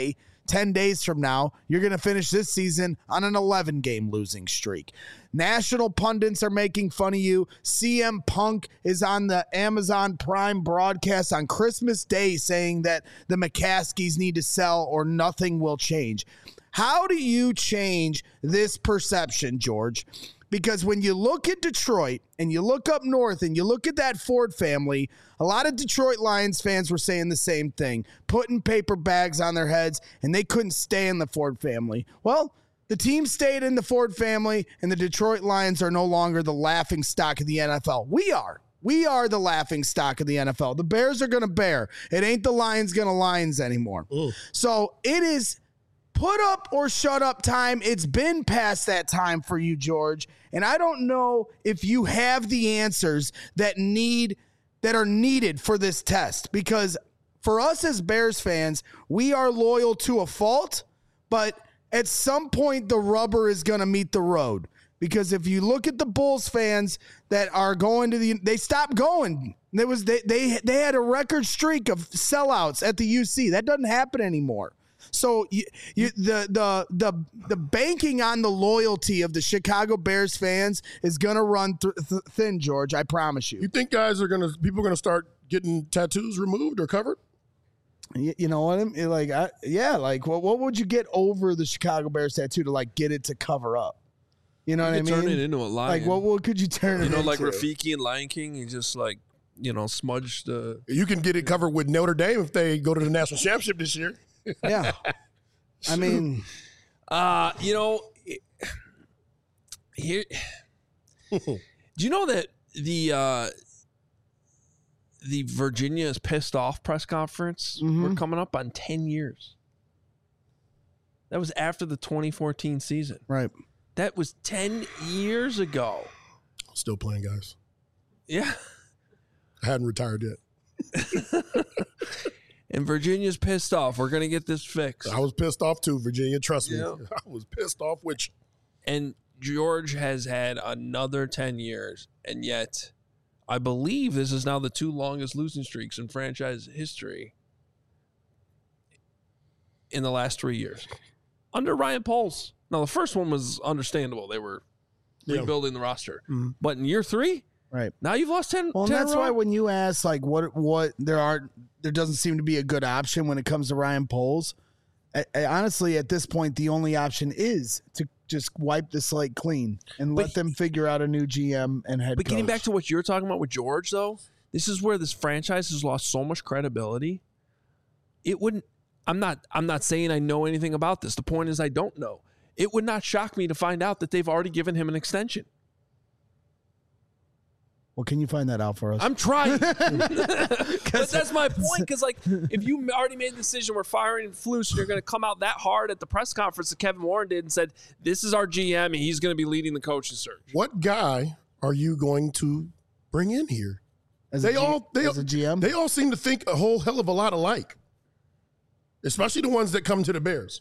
S4: 10 days from now, you're going to finish this season on an 11-game losing streak. National pundits are making fun of you. CM Punk is on the Amazon Prime broadcast on Christmas Day saying that the McCaskies need to sell or nothing will change. How do you change this perception, George? Because when you look at Detroit and you look up north and you look at that Ford family, a lot of Detroit Lions fans were saying the same thing, putting paper bags on their heads, and they couldn't stay in the Ford family. Well, the team stayed in the Ford family, and the Detroit Lions are no longer the laughing stock of the NFL. We are. We are the laughing stock of the NFL. The Bears are going to bear. It ain't the Lions going to Lions anymore. Ooh. So it is put up or shut up time. It's been past that time for you, George. And I don't know if you have the answers that are needed for this test. Because for us as Bears fans, we are loyal to a fault, but at some point the rubber is going to meet the road. Because if you look at the Bulls fans that are going to they stopped going. They had a record streak of sellouts at the UC. That doesn't happen anymore. So the banking on the loyalty of the Chicago Bears fans is going to run thin, George. I promise you.
S3: You think people are going to start getting tattoos removed or covered?
S4: You know what I mean? What would you get over the Chicago Bears tattoo to get it to cover up? You know what I mean?
S1: Turn it into a lion.
S4: What could you turn it into?
S1: Like Rafiki and Lion King, you just smudge the.
S3: You can get it covered with Notre Dame if they go to the national championship this year.
S4: Yeah. I mean,
S1: here. Do you know that the Virginia is pissed off press conference? We're coming up on 10 years. That was after the 2014 season.
S4: Right.
S1: That was 10 years ago.
S3: Still playing, guys.
S1: Yeah.
S3: I hadn't retired yet.
S1: And Virginia's pissed off. We're going to get this fixed.
S3: I was pissed off too, Virginia. Trust me. I was pissed off with you.
S1: And George has had another 10 years. And yet, I believe this is now the 2 longest losing streaks in franchise history in the last 3 years. Under Ryan Poles. Now, the first one was understandable. They were rebuilding the roster. Mm-hmm. But in year 3,
S4: right
S1: now you've lost 10.
S4: Well,
S1: 10
S4: that's why when you ask what there doesn't seem to be a good option when it comes to Ryan Poles. I honestly, at this point, the only option is to just wipe the slate clean and let them figure out a new GM and head coach.
S1: But getting back to what you're talking about with George, though, this is where this franchise has lost so much credibility. It wouldn't. I'm not saying I know anything about this. The point is I don't know. It would not shock me to find out that they've already given him an extension.
S4: Well, can you find that out for us?
S1: I'm trying. But that's my point, because if you already made the decision we're firing Flus and you're going to come out that hard at the press conference that Kevin Warren did and said, this is our GM and he's going to be leading the coaching search.
S3: What guy are you going to bring in here?
S4: As a GM?
S3: They all seem to think a whole hell of a lot alike, especially the ones that come to the Bears.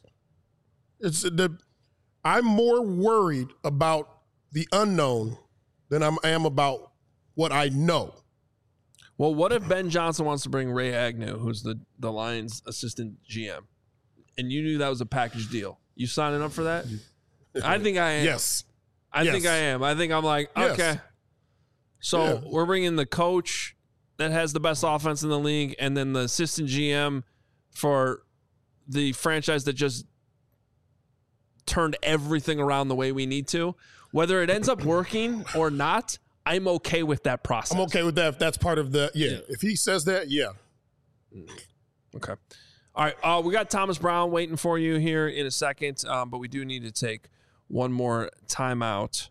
S3: I'm more worried about the unknown than I am about what I know.
S1: Well, what if Ben Johnson wants to bring Ray Agnew, who's the Lions assistant GM, and you knew that was a package deal? You signing up for that? I think I am.
S3: Yes.
S1: I think I am. I think I'm like, okay. So we're bringing the coach that has the best offense in the league and then the assistant GM for the franchise that just turned everything around the way we need to. Whether it ends up working or not, I'm okay with that process.
S3: I'm okay with that if that's part of the, If he says that,
S1: Okay. All right. We got Thomas Brown waiting for you here in a second, but we do need to take one more timeout.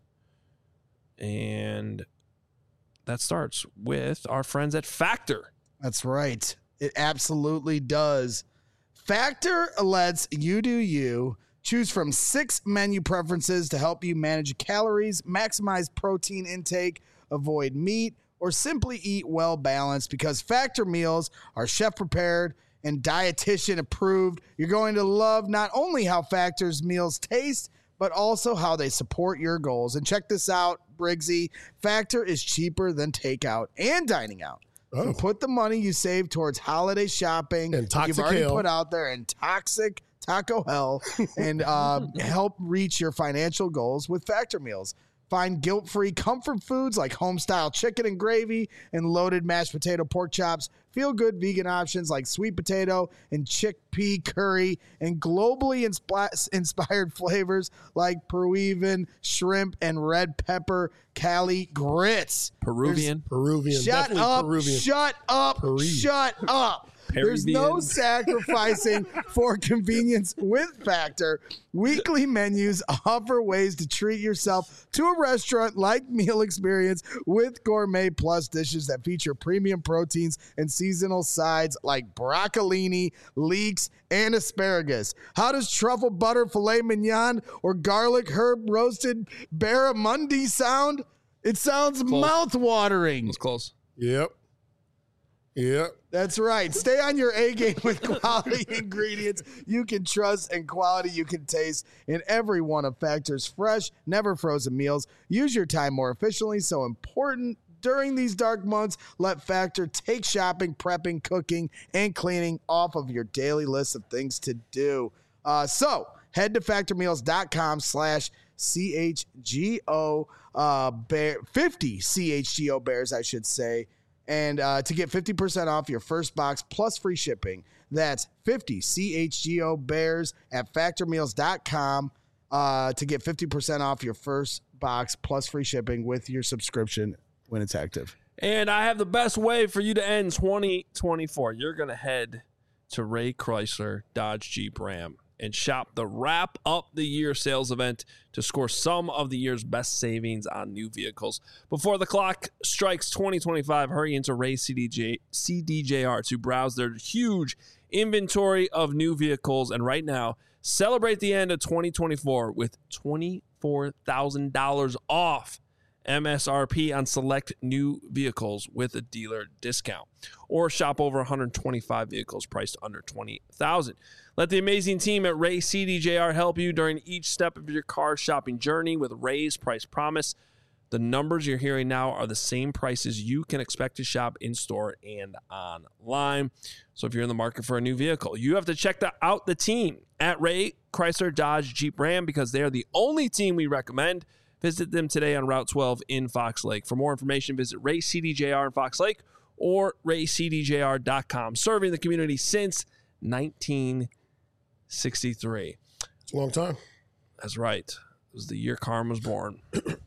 S1: And that starts with our friends at Factor.
S4: That's right. It absolutely does. Factor lets you do you. Choose from 6 menu preferences to help you manage calories, maximize protein intake, avoid meat, or simply eat well balanced, because Factor meals are chef prepared and dietitian approved. You're going to love not only how Factor's meals taste, but also how they support your goals. And check this out, Briggsy. Factor is cheaper than takeout and dining out. So put the money you save towards holiday shopping
S3: and toxic
S4: you've already
S3: kale.
S4: Put out there and toxic taco hell and help reach your financial goals with Factor Meals. Find guilt-free comfort foods like home-style chicken and gravy and loaded mashed potato pork chops, feel-good vegan options like sweet potato and chickpea curry, and globally inspired flavors like Peruvian shrimp and red pepper Cali grits.
S1: Peruvian.
S4: Shut up.
S3: Peruvian.
S4: Shut up.
S3: Peruvian.
S4: Shut up. There's no sacrificing for convenience with Factor. Weekly menus offer ways to treat yourself to a restaurant like Meal Experience with Gourmet Plus dishes that feature premium proteins and seasonal sides like broccolini, leeks, and asparagus. How does truffle butter filet mignon or garlic herb roasted barramundi sound? It sounds mouth-watering.
S1: It's close.
S3: Yep.
S4: That's right. Stay on your A game with quality ingredients you can trust and quality you can taste in every one of Factor's fresh, never frozen meals. Use your time more efficiently. So important during these dark months. Let Factor take shopping, prepping, cooking, and cleaning off of your daily list of things to do. So head to factormeals.com/CHGO 50 CHGO Bears, I should say. And to get 50% off your first box plus free shipping. That's 50 CHGO Bears at factormeals.com to get 50% off your first box plus free shipping with your subscription when it's active.
S1: And I have the best way for you to end 2024. You're going to head to Ray Chrysler Dodge Jeep Ram and shop the Wrap Up the Year sales event to score some of the year's best savings on new vehicles. Before the clock strikes 2025, hurry into Ray CDJR to browse their huge inventory of new vehicles. And right now, celebrate the end of 2024 with $24,000 off MSRP on select new vehicles with a dealer discount, or shop over 125 vehicles priced under $20,000. Let the amazing team at Ray CDJR help you during each step of your car shopping journey with Ray's Price Promise. The numbers you're hearing now are the same prices you can expect to shop in store and online. So if you're in the market for a new vehicle, you have to check out the team at Ray Chrysler Dodge Jeep Ram, because they are the only team we recommend. Visit them today on Route 12 in Fox Lake. For more information, visit Ray CDJR in Fox Lake or raycdjr.com. Serving the community since 1963.
S3: It's a long time.
S1: That's right. It was the year Carm was born.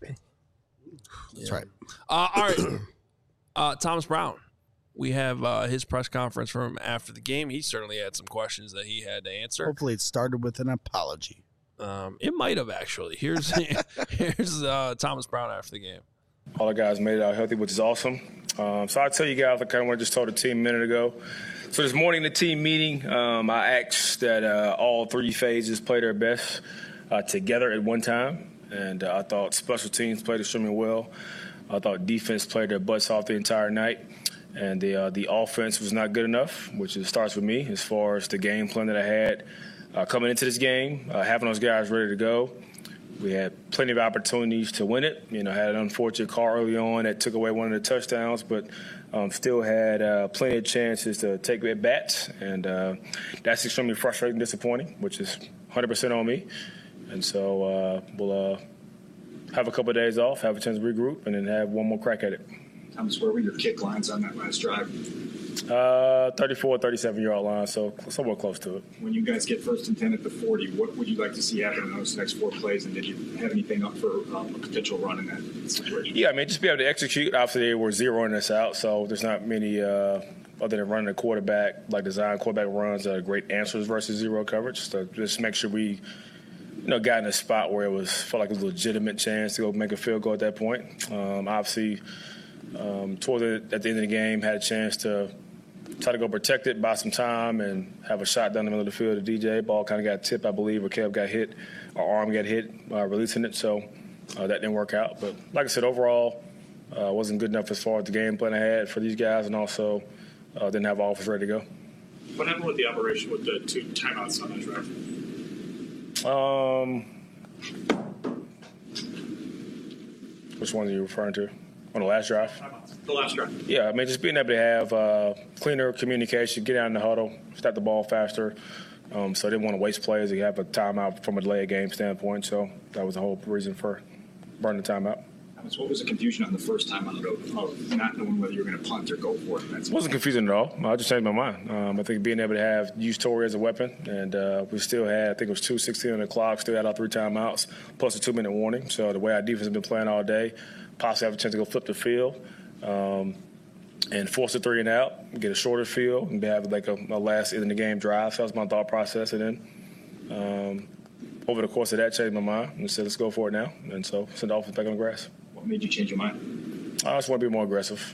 S4: That's right.
S1: All right. Thomas Brown. We have his press conference from after the game. He certainly had some questions that he had to answer.
S4: Hopefully it started with an apology.
S1: It might have, actually. Here's Thomas Brown after the game.
S6: All the guys made it out healthy, which is awesome. So I tell you guys, I kind of what I just told the team a minute ago. So this morning, the team meeting, I asked that all three phases play their best together at one time. And I thought special teams played extremely well. I thought defense played their butts off the entire night. And the offense was not good enough, which starts with me as far as the game plan that I had coming into this game, having those guys ready to go. We had plenty of opportunities to win it. You know, had an unfortunate call early on that took away one of the touchdowns, but still had plenty of chances to take at bats. And that's extremely frustrating and disappointing, which is 100% on me. And so we'll have a couple of days off, have a chance to regroup, and then have one more crack at it.
S7: Thomas, where were your kick lines on that last drive?
S6: 34, 37-yard line, so somewhat close to it.
S7: When you guys get first and 10 at the 40, what would you like to see happen in those next four plays, and did you have anything up for a potential run in that situation?
S6: Yeah, I mean, just be able to execute. Obviously, they were zeroing us out, so there's not many other than running a quarterback, like design quarterback runs that are great answers versus zero coverage. So just make sure we got in a spot where felt like it was a legitimate chance to go make a field goal at that point. Obviously, at the end of the game, had a chance to try to go protect it, buy some time, and have a shot down the middle of the field to DJ. Ball kind of got tipped, I believe, or Kev got hit, or arm got hit, releasing it. So that didn't work out. But like I said, overall, wasn't good enough as far as the game plan I had for these guys, and also didn't have all of us ready to go.
S7: What happened with the operation with the two timeouts on that drive?
S6: Which one are you referring to? On the last drive?
S7: The last drive.
S6: Yeah, I mean, just being able to have cleaner communication, get out in the huddle, start the ball faster, So I didn't want to waste plays. You have a timeout from a delay game standpoint. So that was the whole reason for burning the timeout.
S7: So what was the confusion on the first time of not knowing whether you were going to punt or go for it?
S6: It wasn't confusing at all. I just changed my mind. I think being able to use Torrey as a weapon, and we still had, I think it was 2:16 on the clock, still had all 3 timeouts, plus a 2-minute warning. So the way our defense has been playing all day, possibly have a chance to go flip the field and force a 3 and out, get a shorter field, and have like a last in the game drive. So that was my thought process. And then over the course of that, changed my mind and said, let's go for it now. And so send the offense back on the grass.
S7: What made you change your mind?
S6: I just want to be more aggressive.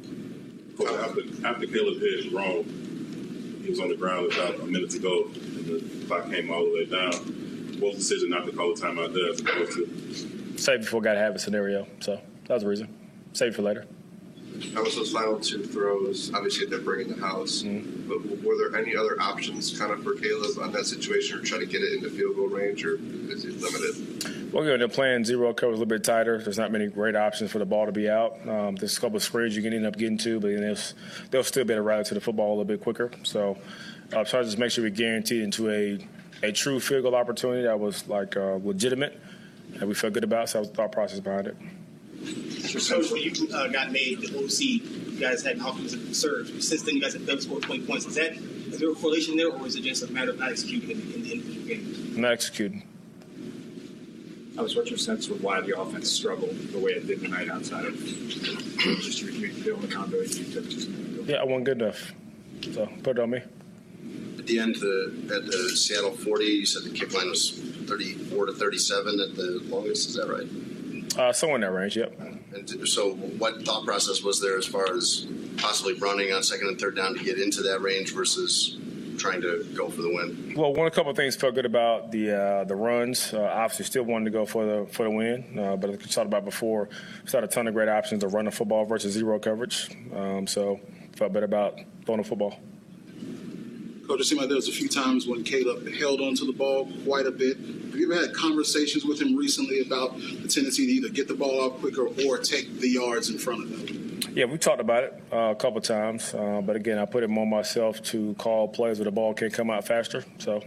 S8: After Caleb hit his wrong, he was on the ground about a minute to go, and the clock came all the way down. What was the decision not to call a timeout there as opposed to?
S6: Save before got to have a scenario. So that was the reason. Save for later.
S9: How was those final 2 throws? Obviously, they're bringing the house. But were there any other options kind of for Caleb on that situation, or try to get it into field goal range, or is it limited?
S6: Well, they're playing zero coverage a little bit tighter. There's not many great options for the ball to be out. There's a couple of screens you can end up getting to, but they'll still be able to rally to the football a little bit quicker. So try to just make sure we guarantee into a true field goal opportunity that was legitimate and we felt good about. So that was the thought process behind it.
S10: Coach, when you got made the OC, you guys had offensive surge. Since then, you guys have done scored 20 points. Is there a correlation there, or is it just a matter of not executing in the individual games?
S6: Not executing.
S7: What's your sense of why the offense struggled the way it did tonight outside of just your building accountability you took just a minute ago?
S6: Yeah, I wasn't good enough. So put it on me.
S9: At the end, at the Seattle 40, you said the kick line was 34 to 37 at the longest. Is that right?
S6: Somewhere in that range, yep.
S9: And so what thought process was there as far as possibly running on 2nd and 3rd down to get into that range versus trying to go for the win?
S6: Well, a couple of things felt good about the runs. Obviously, still wanted to go for the win, but like we talked about before, we had a ton of great options to run the football versus zero coverage. So felt better about throwing the football.
S11: Coach, it seemed like there was a few times when Caleb held onto the ball quite a bit. Have you ever had conversations with him recently about the tendency to either get the ball out quicker or take the yards in front of them?
S6: Yeah, we talked about it a couple of times. But, again, I put it more myself to call plays where the ball can come out faster. So,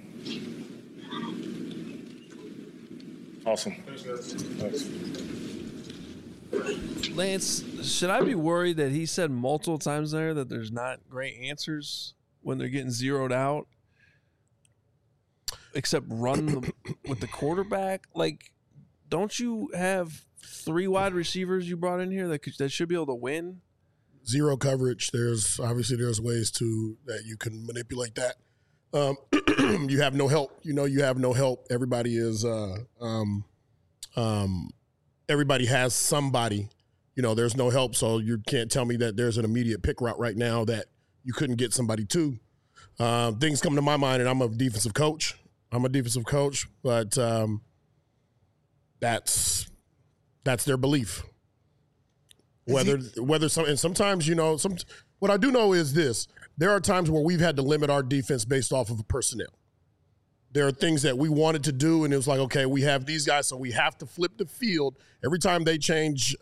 S6: awesome. Thanks.
S1: Lance, should I be worried that he said multiple times there that there's not great answers when they're getting zeroed out, except run with the quarterback? Like, don't you have 3 wide receivers you brought in here that should be able to win?
S3: Zero coverage. There's ways that you can manipulate that. You have no help. You have no help. Everybody is everybody has somebody. There's no help, so you can't tell me that there's an immediate pick route right now that you couldn't get somebody to. Things come to my mind, and I'm a defensive coach, but that's their belief. Sometimes, what I do know is this: there are times where we've had to limit our defense based off of personnel. There are things that we wanted to do, and it was like, okay, we have these guys, so we have to flip the field every time they change.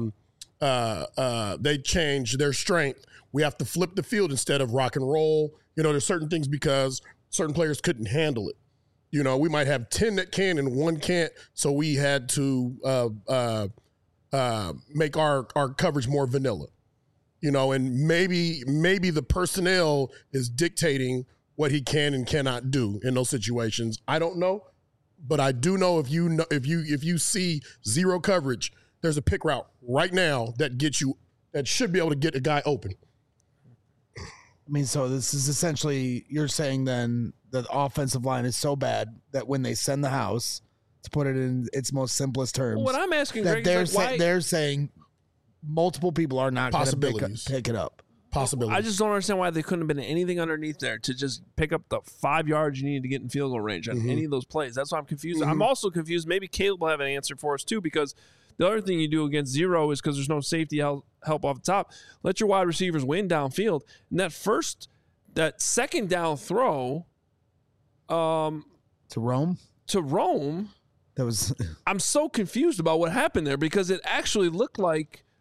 S3: They change their strength. We have to flip the field instead of rock and roll. There's certain things because certain players couldn't handle it. We might have 10 that can and 1 can't, so we had to make our coverage more vanilla. And maybe the personnel is dictating what he can and cannot do in those situations. I don't know, but I do know if you see zero coverage, there's a pick route right now that should be able to get a guy open.
S4: I mean, so this is essentially, you're saying then that the offensive line is so bad that when they send the house, to put it in its most simplest terms,
S1: well, what I'm asking,
S4: that
S1: Greg,
S4: they're saying multiple people are not going to pick it up.
S3: Possibilities.
S1: I just don't understand why they couldn't have been anything underneath there to just pick up the 5 yards you needed to get in field goal range on any of those plays. That's why I'm confused. I'm also confused. Maybe Caleb will have an answer for us too, because the other thing you do against zero is because there's no safety help off the top. Let your wide receivers win downfield. And that second down throw
S4: to Rome.
S1: That was. I'm so confused about what happened there because it actually looked like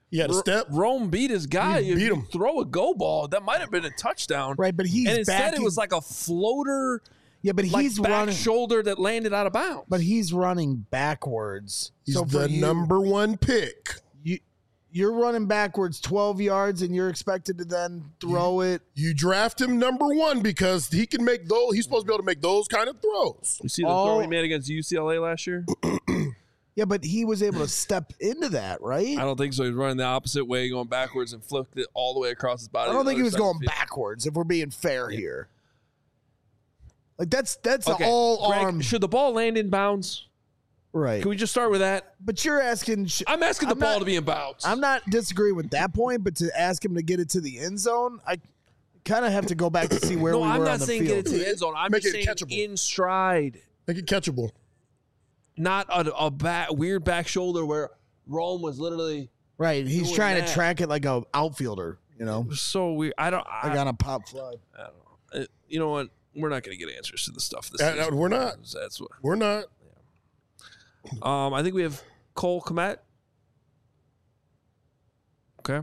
S3: He had a step.
S1: Rome beat his guy.
S3: He beat him.
S1: Throw a go ball. That might have been a touchdown.
S4: Right, but he's
S1: and instead
S4: backing,
S1: it was like a floater.
S4: Yeah, but he's
S1: back
S4: running
S1: shoulder that landed out of bounds.
S4: But he's running backwards.
S3: He's
S4: so
S3: the number one pick.
S4: You're running backwards 12 yards, and you're expected to then throw it.
S3: You draft him number one because he can make those. He's supposed to be able to make those kind of throws.
S1: You see the throw he made against UCLA last year?
S4: Yeah, but he was able to step into that, right?
S1: I don't think so. He was running the opposite way, going backwards, and flipped it all the way across his body.
S4: I don't think he was going backwards, if we're being fair here. Like, that's
S1: okay.
S4: an all-arm.
S1: Greg, should the ball land in bounds?
S4: Right.
S1: Can we just start with that?
S4: But you're asking.
S1: I'm asking the ball to be in bounds.
S4: I'm not disagreeing with that point, but to ask him to get it to the end zone, I kind of have to go back to see where we were on the field.
S1: No, I'm not saying get it to the end zone. I'm just saying
S3: catchable.
S1: In stride.
S3: Make it catchable.
S1: Not a weird back shoulder where Rome was literally
S4: right. He's trying to track it like a outfielder. You know,
S1: so weird. I
S4: got a pop fly.
S1: I don't know. You know what? We're not going to get answers to the stuff.
S3: We're not.
S1: That's what
S3: we're not.
S1: I think we have Cole Kmet. Okay.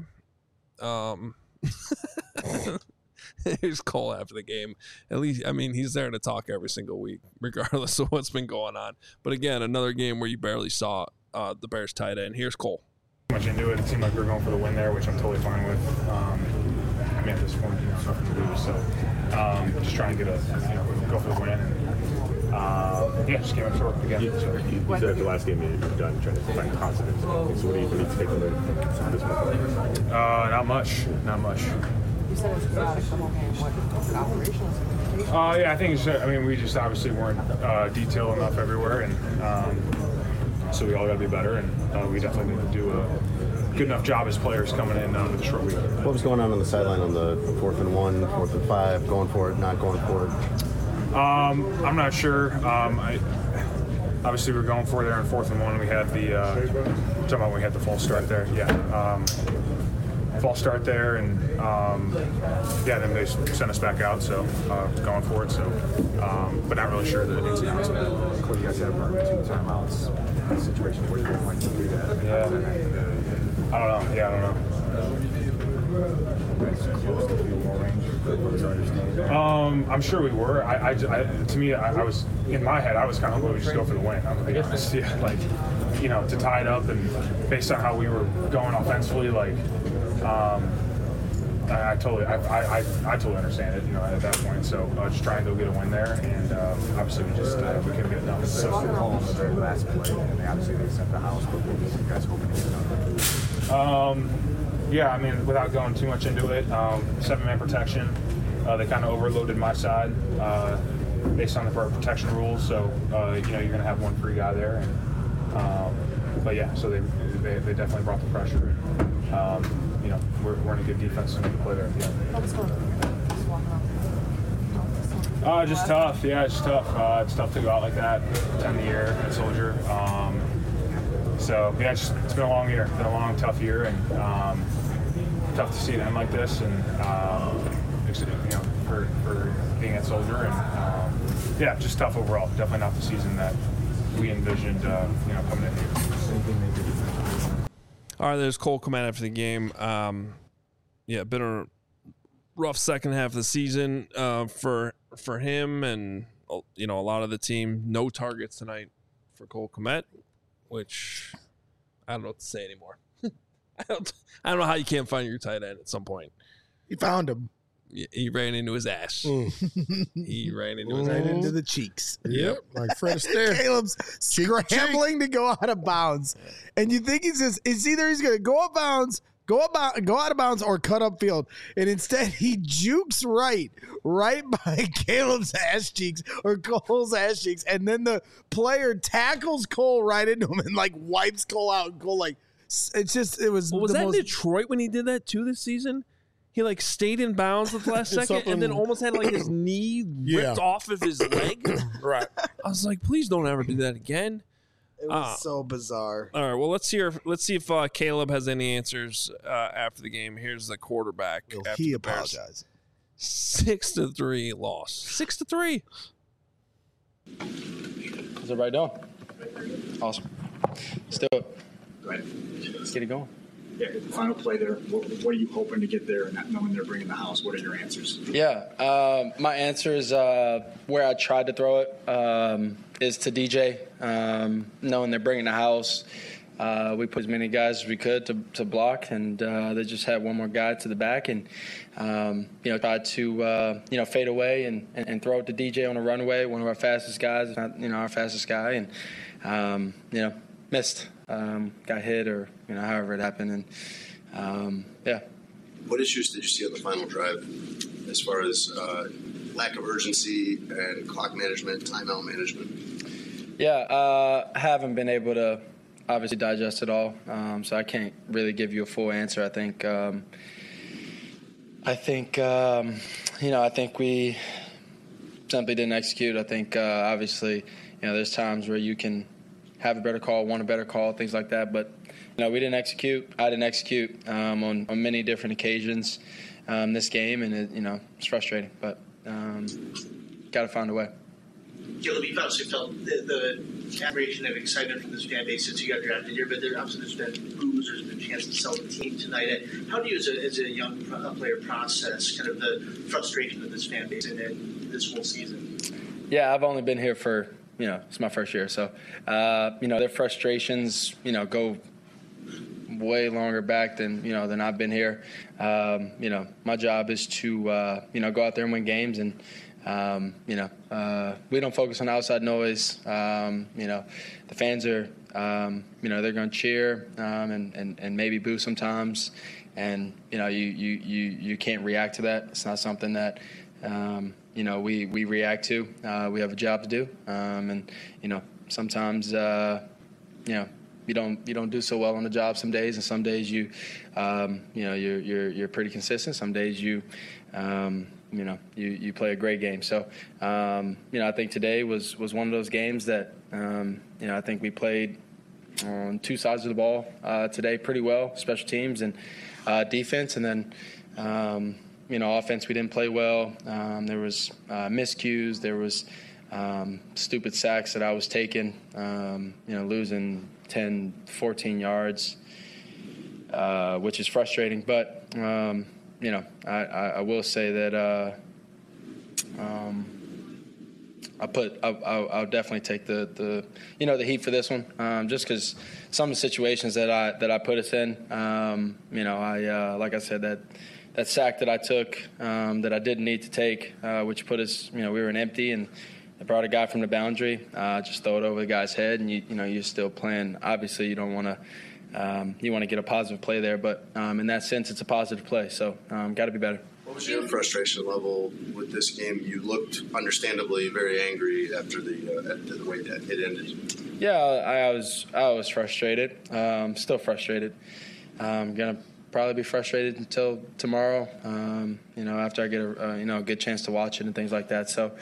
S1: Here's Cole after the game. At least, I mean, he's there to talk every single week, regardless of what's been going on. But again, another game where you barely saw the Bears tight end. Here's Cole.
S7: Much into it. It seemed like we were going for the win there, which I'm totally fine with. I mean, at this point, nothing to lose. So just trying to get go for the win. Yeah, just came up short again.
S12: You said at the last game you're done trying to find confidence. So what do you take away from this one?
S7: Not much.
S13: You said it's not a couple game. What operational?
S7: Yeah, I think it's. I mean, we just obviously weren't detailed enough everywhere, and so we all got to be better, and we definitely need to do a good enough job as players coming in with a short week.
S12: What was going on the sideline on the 4th and 1, 4th and 5, going for it, not going for it?
S7: I'm not sure. Obviously, we were going for it there in 4th and 1. We had talking about when we had the false start there. Yeah, false start there, and then they sent us back out. So going for it. So, but not really sure the ins and outs of that.
S12: You guys have 2 timeouts. In a situation where you might do that.
S7: Yeah. I don't know. I'm sure we were. To me, I was in my head. I was kind of going to just go for the win. I'm gonna be honest. Yeah, like to tie it up, and based on how we were going offensively, like I totally understand it. At that point, so just trying to go get a win there, and obviously we couldn't get it done.
S12: So the call on the very last play, and obviously they sent the house, but what were you guys hoping to get done?
S7: Yeah, I mean, without going too much into it, 7-man protection. They kind of overloaded my side based on the protection rules. So you're going to have one free guy there. And, but yeah, so they definitely brought the pressure. We're in a good defense and we can play there at the end. Just tough. Yeah, it's tough. It's tough to go out like that, 10 of the year at Soldier. So yeah, it's been a long year. It's been a long, tough year, and tough to see it end like this. And for being at Soldier, and yeah, just tough overall. Definitely not the season that we envisioned. Coming in here.
S1: All right, there's Cole Kmet after the game. Been a rough second half of the season for him, and a lot of the team. No targets tonight for Cole Kmet, which I don't know what to say anymore. I don't know how you can't find your tight end at some point.
S4: He found him.
S1: He ran into his ass. He ran into his
S4: right
S1: ass.
S4: into the cheeks.
S3: Yep, like Fred Astaire.
S4: Caleb's scrambling to go out of bounds, and you think it's either he's going to go out of bounds, or cut up field, and instead he jukes right by Caleb's ass cheeks or Cole's ass cheeks, and then the player tackles Cole right into him and wipes Cole out. And Cole it was.
S1: Well, was that Detroit when he did that too this season? He stayed in bounds at the last second and then almost had his knee ripped off of his leg.
S3: Right.
S1: I was like, please don't ever do that again.
S4: It was so bizarre.
S1: All right, well, let's see if Caleb has any answers after the game. Here's the quarterback.
S4: He apologized.
S1: 6-3 loss. 6-3.
S14: How's everybody doing? Awesome. Let's do it. Let's get it going. the final play there. What are you hoping to get there, and not knowing they're bringing the house? What are your answers?
S15: Yeah, my answer is where I tried to throw it is to DJ, knowing they're bringing the house. We put as many guys as we could to block, and they just had one more guy to the back, and tried to fade away and throw it to DJ on a runaway, one of our fastest guys, not our fastest guy, and missed, got hit, or however it happened, and
S9: What issues did you see on the final drive, as far as lack of urgency and clock management, timeout management?
S15: I haven't been able to obviously digest it all, so I can't really give you a full answer. I think we simply didn't execute. I think obviously there's times where you can have a better call, want a better call, things like that, but we didn't execute. I didn't execute on many different occasions this game, and it's frustrating, but got to find a way.
S10: Caleb, you've obviously felt the admiration and excitement from this fan base since you got drafted here, but there's been boos, there's been a chance to sell the team tonight. How do you, as a young player, process kind of the frustration of this fan base and this whole season?
S15: Yeah, I've only been here for, it's my first year, so, their frustrations, go way longer back than I've been here. My job is to, go out there and win games, and we don't focus on outside noise. The fans are, they're going to cheer and maybe boo sometimes, and you can't react to that. It's not something that we react to. We have a job to do, and sometimes you don't do so well on the job some days, and some days you're pretty consistent. Some days you play a great game. So, I think today was one of those games that, I think we played on two sides of the ball today pretty well, special teams and defense. And then, offense we didn't play well. There was miscues. There was stupid sacks that I was taking, losing 10, 14 yards, which is frustrating. But, I will say that I'll definitely take the heat for this one, just because some of the situations that I put us in, like I said, that sack that I took that I didn't need to take, which put us, we were in empty, and I brought a guy from the boundary, just throw it over the guy's head, and you're still playing. Obviously, you don't want to. You want to get a positive play there, but in that sense, it's a positive play. So, got to be better.
S9: What was your frustration level with this game? You looked understandably very angry after the way that it ended.
S15: Yeah, I was frustrated. Still frustrated. Gonna probably be frustrated until tomorrow. After I get a good chance to watch it and things like that. So,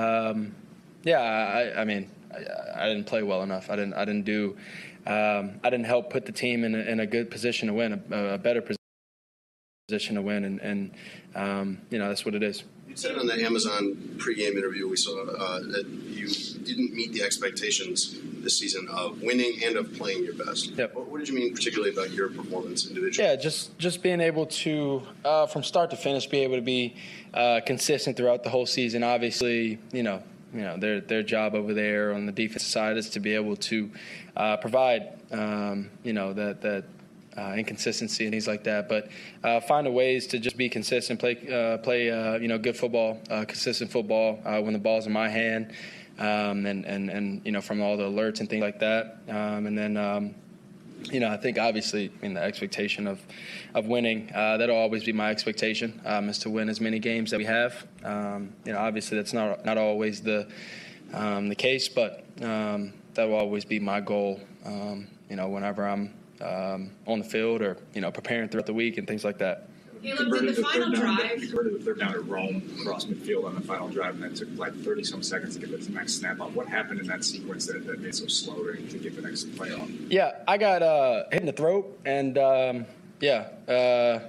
S15: I didn't play well enough. I didn't help put the team in a good position to win, a better position to win, and that's what it is.
S9: You said on the Amazon pregame interview we saw that you didn't meet the expectations this season of winning and of playing your best.
S15: Yep.
S9: What did you mean particularly about your performance individually?
S15: Yeah, just being able to, from start to finish, be able to be consistent throughout the whole season. Obviously, their job over there on the defensive side is to be able to provide, that inconsistency and things like that. But find ways to just be consistent, play good football, consistent football when the ball's in my hand, and from all the alerts and things like that. And then, I think obviously the expectation of winning, that'll always be my expectation, is to win as many games that we have. Obviously that's not always the case, but that will always be my goal, whenever I'm on the field or, preparing throughout the week and things like that.
S14: Caleb, did the final drive? You converted the third down to Rome across midfield on the final drive, and that took like 30-some seconds to get the next snap up. What happened in that sequence that made it so slow to get the next play off?
S15: Yeah, I got hit in the throat, and I got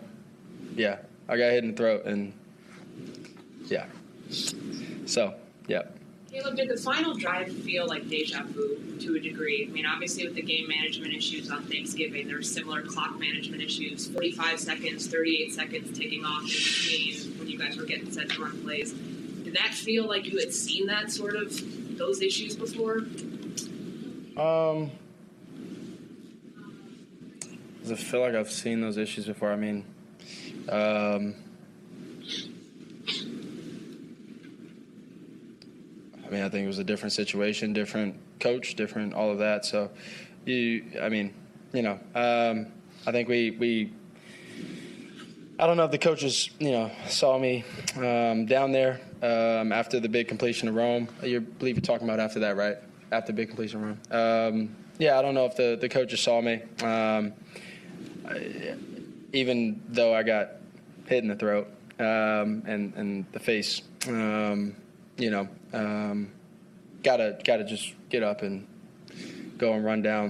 S15: hit in the throat, and so, yeah.
S13: Caleb, did the final drive feel like deja vu to a degree? I mean, obviously with the game management issues on Thanksgiving, there were similar clock management issues, 45 seconds, 38 seconds taking off in between when you guys were getting set to run plays. Did that feel like you had seen that sort of, those issues before?
S15: Does it feel like I've seen those issues before? I mean, I think it was a different situation, different coach, different all of that. So, I think we I don't know if the coaches, saw me down there after the big completion of Rome. I believe you're talking about after that, right? After the big completion of Rome. I don't know if the coaches saw me. Even though I got hit in the throat and the face, gotta just get up and go and run down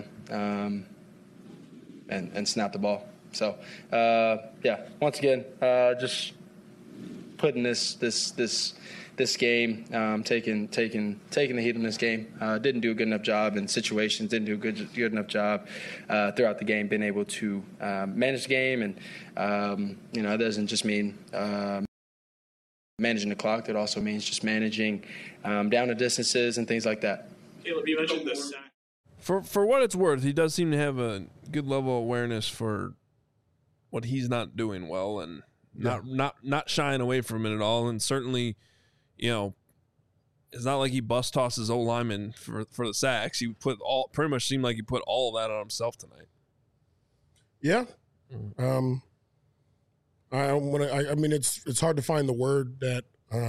S15: and snap the ball. So once again, just putting this game, taking the heat in this game. Didn't do a good enough job in situations. Didn't do a good enough job throughout the game. Being able to manage the game, and it doesn't just mean managing the clock. It also means just managing down the distances and things like that.
S16: Caleb, you mentioned this.
S1: For what it's worth, he does seem to have a good level of awareness for what he's not doing well, and not shying away from it at all. And certainly, it's not like he bust tosses O lineman for the sacks. He pretty much seemed like he put all of that on himself tonight.
S3: Yeah. It's hard to find the word that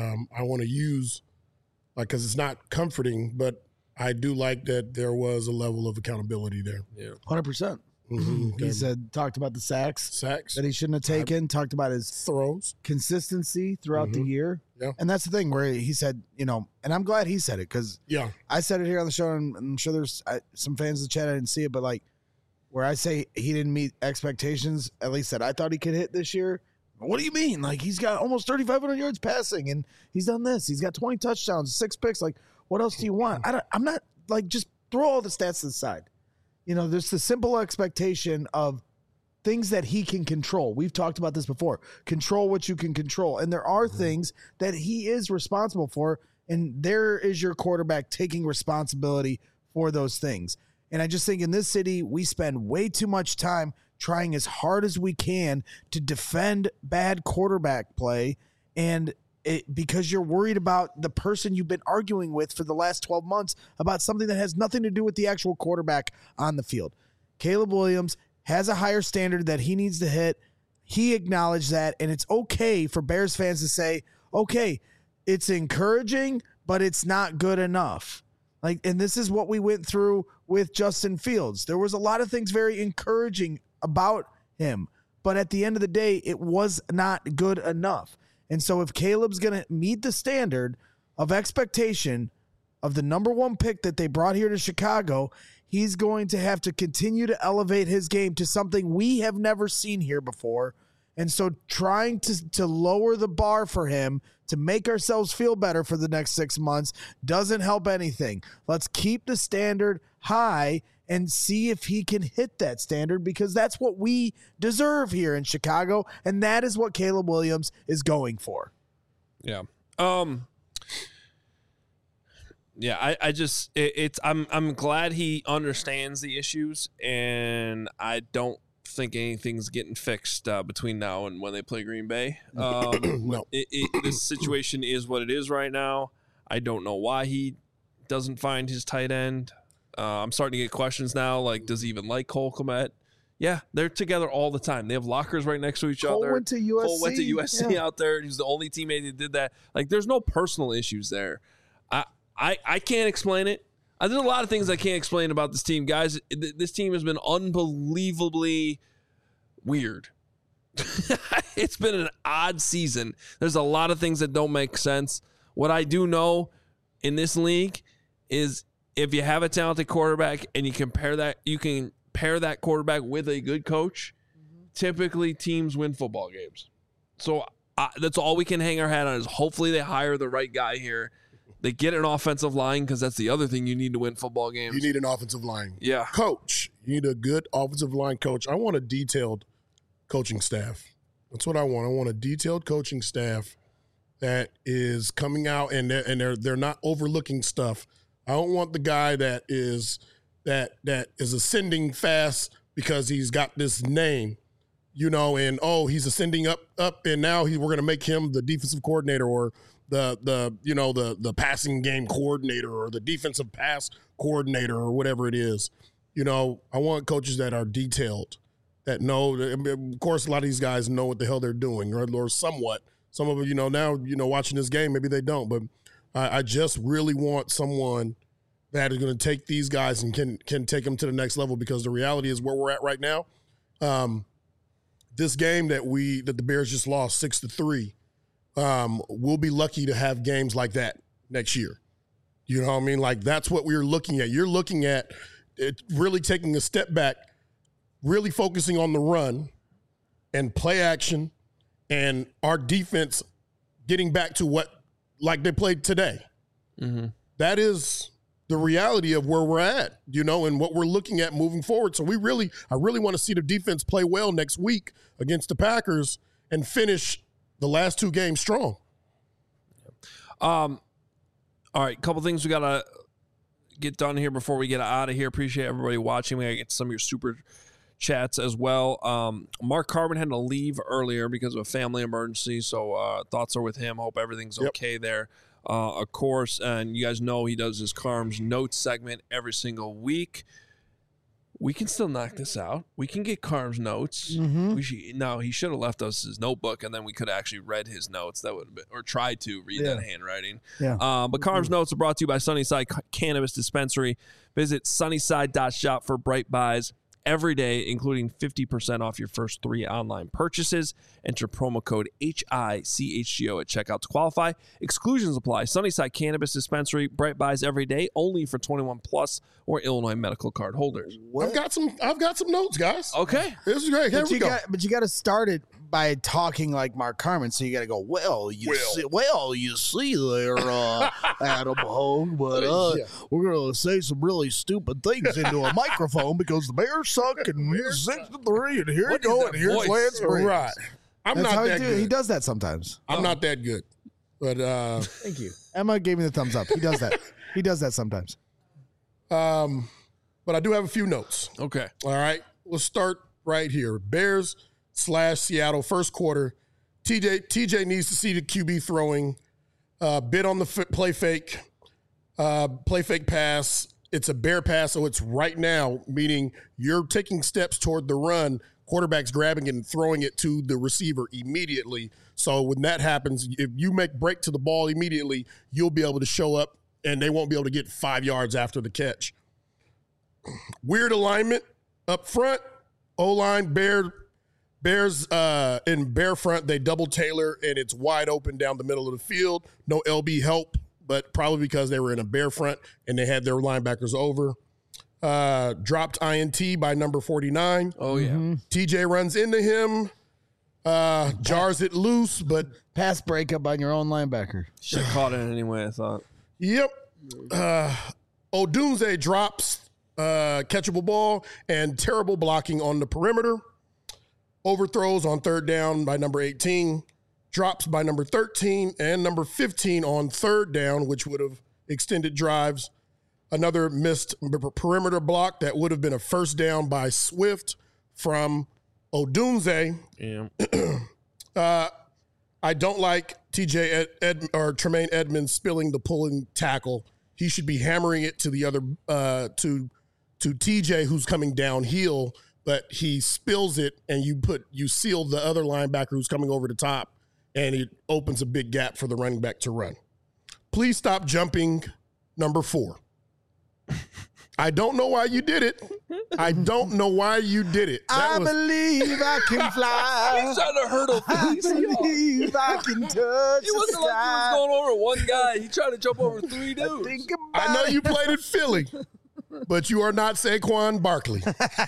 S3: I want to use, because it's not comforting, but I do like that there was a level of accountability there.
S1: Yeah,
S4: 100%. Mm-hmm. He talked about the sacks that he shouldn't have taken, talked about his
S3: throws,
S4: consistency throughout the year.
S3: Yeah.
S4: And that's the thing where he said, and I'm glad he said it, because I said it here on the show, and I'm sure there's some fans in the chat, I didn't see it, but where I say he didn't meet expectations, at least that I thought he could hit this year. What do you mean? He's got almost 3,500 yards passing, and he's done this. He's got 20 touchdowns, 6 picks. What else do you want? I'm not just throw all the stats to the side. There's the simple expectation of things that he can control. We've talked about this before. Control what you can control. And there are things that he is responsible for, and there is your quarterback taking responsibility for those things. And I just think in this city, we spend way too much time trying as hard as we can to defend bad quarterback play, and because you're worried about the person you've been arguing with for the last 12 months about something that has nothing to do with the actual quarterback on the field. Caleb Williams has a higher standard that he needs to hit. He acknowledged that, and it's okay for Bears fans to say, okay, it's encouraging, but it's not good enough. And this is what we went through with Justin Fields. There was a lot of things very encouraging about him, but at the end of the day, it was not good enough. And so if Caleb's going to meet the standard of expectation of the number one pick that they brought here to Chicago, he's going to have to continue to elevate his game to something we have never seen here before. And so trying to lower the bar for him to make ourselves feel better for the next 6 months doesn't help anything. Let's keep the standard high and see if he can hit that standard, because that's what we deserve here in Chicago, and that is what Caleb Williams is going for.
S1: Yeah. I'm glad he understands the issues, and I don't think anything's getting fixed between now and when they play Green Bay.
S3: No.
S1: This situation is what it is right now. I don't know why he doesn't find his tight end. I'm starting to get questions now, does he even like Cole Kmet? Yeah, they're together all the time. They have lockers right next to each other.
S4: Cole went to USC
S1: out there. He's the only teammate that did that. There's no personal issues there. I can't explain it. There's a lot of things I can't explain about this team, guys. This team has been unbelievably weird. It's been an odd season. There's a lot of things that don't make sense. What I do know in this league is if you have a talented quarterback and you can pair that quarterback with a good coach, typically teams win football games. So that's all we can hang our hat on, is hopefully they hire the right guy here They get an offensive line because that's the other thing you need to win football games.
S3: You need an offensive line.
S1: Yeah.
S3: Coach. You need a good offensive line coach. I want a detailed coaching staff. That's what I want. I want a detailed coaching staff that is coming out and they're not overlooking stuff. I don't want the guy that is ascending fast because he's got this name, and he's ascending up, and now we're going to make him the defensive coordinator or the passing game coordinator or the defensive pass coordinator or whatever it is. I want coaches that are detailed, that know. Of course, a lot of these guys know what the hell they're doing, or somewhat. Some of them, now, watching this game, maybe they don't. But I just really want someone that is going to take these guys and can take them to the next level, because the reality is where we're at right now. This game that the Bears just lost 6-3. We'll be lucky to have games like that next year. You know what I mean? Like, that's what we're looking at. You're looking at it really taking a step back, really focusing on the run and play action, and our defense getting back to what like they played today. Mm-hmm. That is the reality of where we're at, and what we're looking at moving forward. So I really want to see the defense play well next week against the Packers and finish the last two games strong.
S1: All right, couple things we got to get done here before we get out of here. Appreciate everybody watching. We got to get some of your super chats as well. Mark Carbon had to leave earlier because of a family emergency, so thoughts are with him. Hope everything's okay there. Of course, and you guys know he does his Carm's Notes segment every single week. We can still knock this out. We can get Carm's Notes. Mm-hmm. He should have left us his notebook, and then we could have actually read his notes. That would have been, or tried to read that handwriting. Yeah. But Carm's Notes are brought to you by Sunnyside Cannabis Dispensary. Visit sunnyside.shop for bright buys every day, including 50% off your first 3 online purchases. Enter promo code HICHGO at checkout to qualify. Exclusions apply. Sunnyside Cannabis Dispensary, bright buys every day, only for 21 plus or Illinois medical card holders.
S3: I've got some notes, guys.
S1: Okay,
S3: this is great. Here we go.
S4: But you got to start it by talking like Mark Carmen. So you got to go, you see there, Adam Hogue, but we're going to say some really stupid things into a microphone because the Bears suck and we're 6-3, and here you go, and here's Lance Briggs.
S3: Right. I'm not that good.
S4: He does that sometimes.
S3: I'm not that good. But
S4: thank you. Emma gave me the thumbs up. He does that. He does that sometimes.
S3: But I do have a few notes.
S1: Okay.
S3: All right. We'll start right here. Bears/Seattle first quarter. TJ needs to see the QB throwing. Bid on the play fake pass. It's a Bear pass, so it's right now, meaning you're taking steps toward the run. Quarterback's grabbing it and throwing it to the receiver immediately. So when that happens, if you make break to the ball immediately, you'll be able to show up, and they won't be able to get 5 yards after the catch. Weird alignment up front. O-line, Bears in Bear front, they double Taylor, and it's wide open down the middle of the field. No LB help, but probably because they were in a Bear front and they had their linebackers over. Dropped INT by number 49.
S1: Oh, yeah. Mm-hmm.
S3: TJ runs into him, jars it loose, but
S4: pass breakup on your own linebacker.
S1: Should have caught it anyway, I thought.
S3: Yep. Odunze drops catchable ball and terrible blocking on the perimeter. Overthrows on third down by number 18. Drops by number 13 and number 15 on third down, which would have extended drives. Another missed perimeter block that would have been a first down by Swift from Odunze.
S1: Yeah.
S3: I don't like Tremaine Edmonds spilling the pulling tackle. He should be hammering it to the other to TJ, who's coming downhill, but he spills it, and you seal the other linebacker who's coming over the top, and it opens a big gap for the running back to run. Please stop jumping number 4. I don't know why you did it. I don't know why you did it.
S4: I believe I can fly.
S1: He's trying to hurdle things.
S4: I believe I can touch
S1: It wasn't like he was going over one guy. He tried to jump over 3 dudes.
S3: I know you played in Philly, but you are not Saquon Barkley.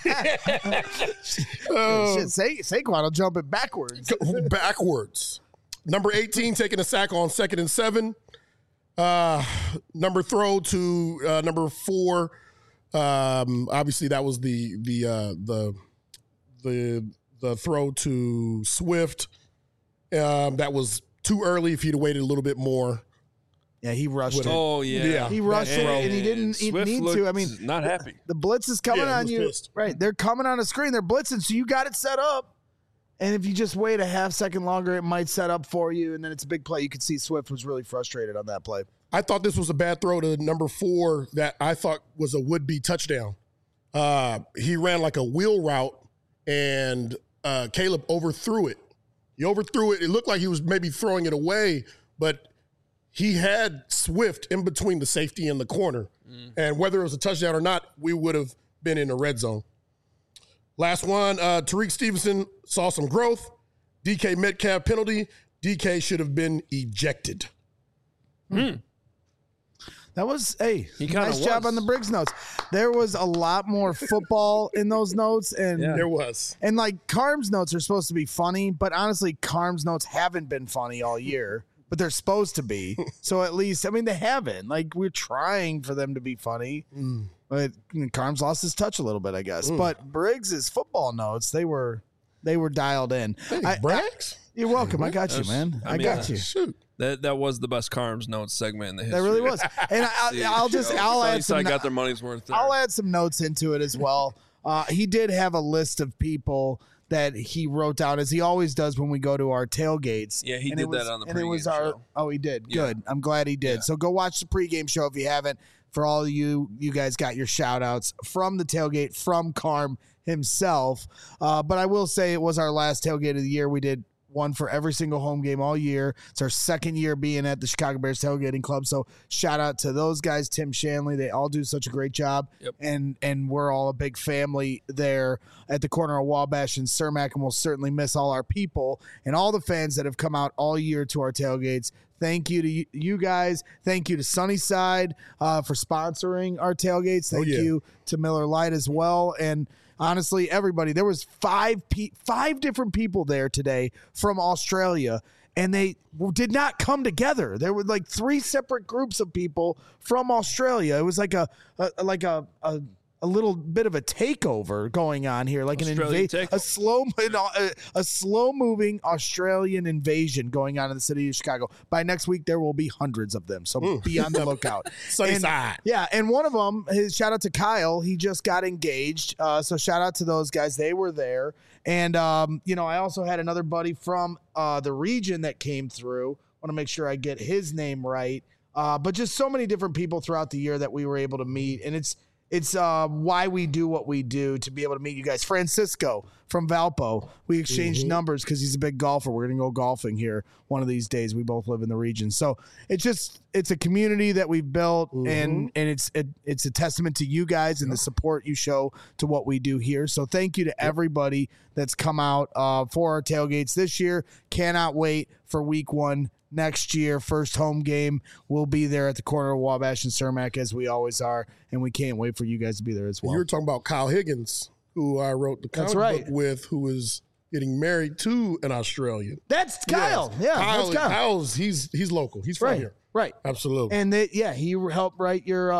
S4: Saquon will jump it backwards.
S3: Backwards. Number 18 taking a sack on 2nd and 7. Number throw to number 4. Obviously, that was the throw to Swift. That was too early. If he'd have waited a little bit more.
S4: Yeah, he rushed it.
S1: Oh, yeah.
S4: He rushed it, and he didn't need to. I mean,
S1: not happy.
S4: The blitz is coming on you.
S3: Pissed.
S4: Right. They're coming on a screen. They're blitzing, so you got it set up. And if you just wait a half second longer, it might set up for you, and then it's a big play. You could see Swift was really frustrated on that play.
S3: I thought this was a bad throw to number 4 that I thought was a would-be touchdown. He ran like a wheel route, and Caleb overthrew it. He overthrew it. It looked like he was maybe throwing it away, but he had Swift in between the safety and the corner. And whether it was a touchdown or not, we would have been in the red zone. Last one, Tariq Stevenson saw some growth. DK Metcalf penalty. DK should have been ejected.
S4: That was, nice
S1: was.
S4: job on the Briggs notes. There was a lot more football in those notes. And
S3: There was.
S4: And like Carm's notes are supposed to be funny, but honestly, Carm's notes haven't been funny all year, but they're supposed to be. So at least, I mean, they haven't. Like, we're trying for them to be funny. But Carm's lost his touch a little bit, I guess. But Briggs's football notes, they were dialed in.
S3: Braggs?
S4: You're welcome. I got you, man. I got you.
S3: Shoot.
S1: That was the best Carms Notes segment in the history.
S4: That really was. And I'll add some.
S1: I got their money's worth there.
S4: I'll add some notes into it as well. He did have a list of people that he wrote down, as he always does when we go to our tailgates.
S1: Yeah, he did that on the pregame
S4: and it was
S1: show.
S4: Oh, he did.
S1: Yeah.
S4: Good. I'm glad he did.
S1: Yeah.
S4: So go watch the pregame show if you haven't. For all of you guys got your shout outs from the tailgate, from Carm himself. But I will say it was our last tailgate of the year. We did one for every single home game all year. It's our second year being at the Chicago Bears Tailgating Club. So shout out to those guys, Tim Shanley. They all do such a great job.
S1: Yep.
S4: And we're all a big family there at the corner of Wabash and Cermak, and we'll certainly miss all our people and all the fans that have come out all year to our tailgates. Thank you to you guys. Thank you to Sunnyside for sponsoring our tailgates. Thank you to Miller Lite as well. And honestly, everybody, there was five different people there today from Australia, and they did not come together. There were like 3 separate groups of people from Australia. It was like a little bit of a takeover going on here, like a slow moving Australian invasion going on in the city of Chicago. By next week, there will be hundreds of them. So be on the lookout.
S3: Sunnyside.
S4: And one of them, shout out to Kyle. He just got engaged. So shout out to those guys. They were there. And, I also had another buddy from the region that came through. I want to make sure I get his name right. But just so many different people throughout the year that we were able to meet. And it's why we do what we do, to be able to meet you guys. Francisco from Valpo. We exchanged numbers because he's a big golfer. We're going to go golfing here one of these days. We both live in the region. So it's a community that we've built, and it's a testament to you guys and the support you show to what we do here. So thank you to everybody that's come out for our tailgates this year. Cannot wait for week 1. Next year, first home game, we'll be there at the corner of Wabash and Cermak, as we always are, and we can't wait for you guys to be there as well.
S3: You were talking about Kyle Higgins, who I wrote the comic book with, who is getting married to an Australian.
S4: That's Kyle.
S3: Yes.
S4: Yeah,
S3: Kyle,
S4: that's Kyle.
S3: Kyle's he's local. He's from here.
S4: Right.
S3: Absolutely.
S4: And he helped write your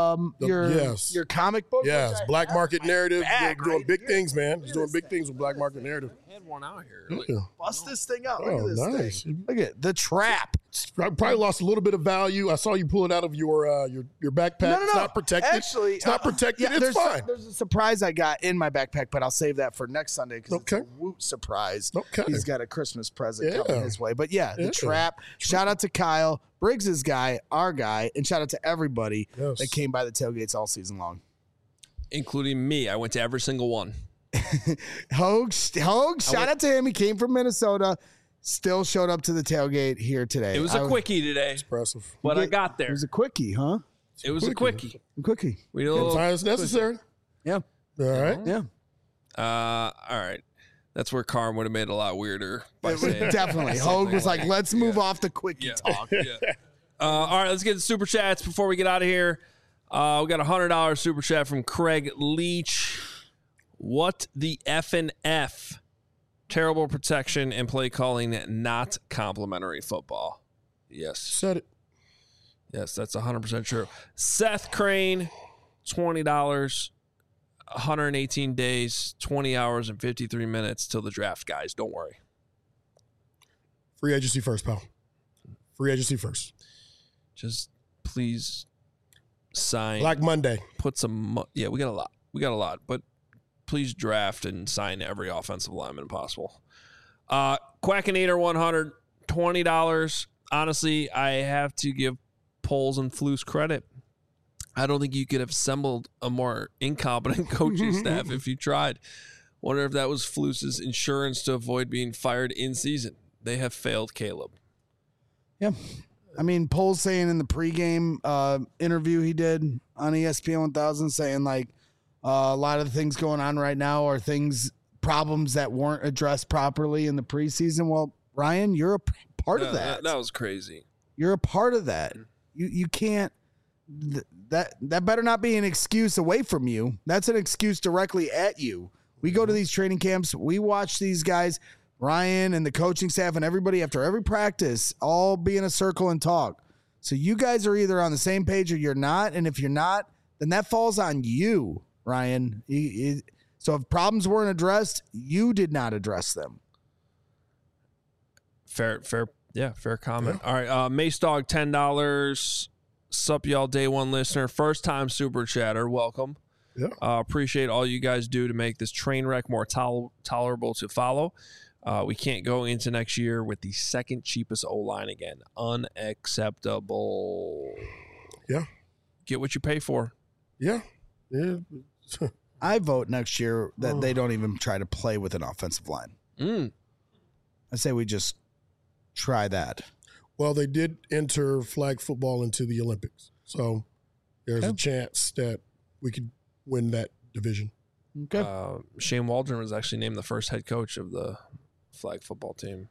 S4: comic book.
S3: Yes, Black Market Narrative. Doing big things, man. He's doing big things with Black Market Narrative.
S1: I had one out here.
S4: Bust this thing out.
S3: Oh,
S4: Look at this
S3: nice.
S4: thing. Look at The Trap.
S3: Probably lost a little bit of value. I saw you pull it out of your backpack.
S4: No.
S3: It's not protected.
S4: Actually,
S3: it's not protected. It's fine.
S4: There's a surprise I got in my backpack, but I'll save that for next Sunday because it's a woot surprise.
S3: Okay.
S4: He's got a Christmas present coming his way. But The Trap. Shout out to Kyle, Briggs's guy, our guy, and shout out to everybody that came by the tailgates all season long.
S1: Including me. I went to every single one.
S4: Hogue, shout out to him. He came from Minnesota. Still showed up to the tailgate here today.
S1: It was a quickie today.
S3: Impressive.
S1: But I got there.
S4: It was a quickie, huh?
S1: It was a quickie.
S4: We
S1: did a little
S3: sometimes necessary.
S4: Yeah.
S3: All right.
S4: Yeah.
S1: All right. That's where Carm would have made it a lot weirder by saying
S4: definitely. Hogue was like, let's move off the quickie talk.
S1: All right, let's get the super chats before we get out of here. We got a $100 super chat from Craig Leach. What the F&F? Terrible protection and play calling, not complimentary football. Yes.
S3: Said it.
S1: Yes, that's 100% true. Seth Crane, $20, 118 days, 20 hours, and 53 minutes till the draft, guys. Don't worry.
S3: Free agency first, pal. Free agency first.
S1: Just please sign.
S3: Black Monday.
S1: Put some. Yeah, we got a lot. But please draft and sign every offensive lineman possible. Quackinator 100, $20. Honestly, I have to give Poles and Flus credit. I don't think you could have assembled a more incompetent coaching staff if you tried. Wonder if that was Flus's insurance to avoid being fired in season. They have failed Caleb.
S4: Yeah. I mean, Poles saying in the pregame interview he did on ESPN 1000, saying like a lot of the things going on right now are problems that weren't addressed properly in the preseason. Well, Ryan, you're a part of that.
S1: That was crazy.
S4: You're a part of that. You can't. That better not be an excuse away from you. That's an excuse directly at you. We go to these training camps. We watch these guys, Ryan and the coaching staff and everybody after every practice, all be in a circle and talk. So you guys are either on the same page or you're not. And if you're not, then that falls on you, Ryan. So if problems weren't addressed, you did not address them.
S1: Fair comment. Yeah. All right, Mace Dog, $10. Sup, y'all, day one listener, first time super chatter. Welcome.
S3: Yeah.
S1: Appreciate all you guys do to make this train wreck more tolerable to follow. We can't go into next year with the second cheapest O-line again. Unacceptable.
S3: Yeah.
S1: Get what you pay for.
S3: Yeah.
S4: I vote next year that they don't even try to play with an offensive line. I say we just try that.
S3: Well, they did enter flag football into the Olympics. So there's a chance that we could win that division.
S4: Okay.
S1: Shane Waldron was actually named the first head coach of the flag football team.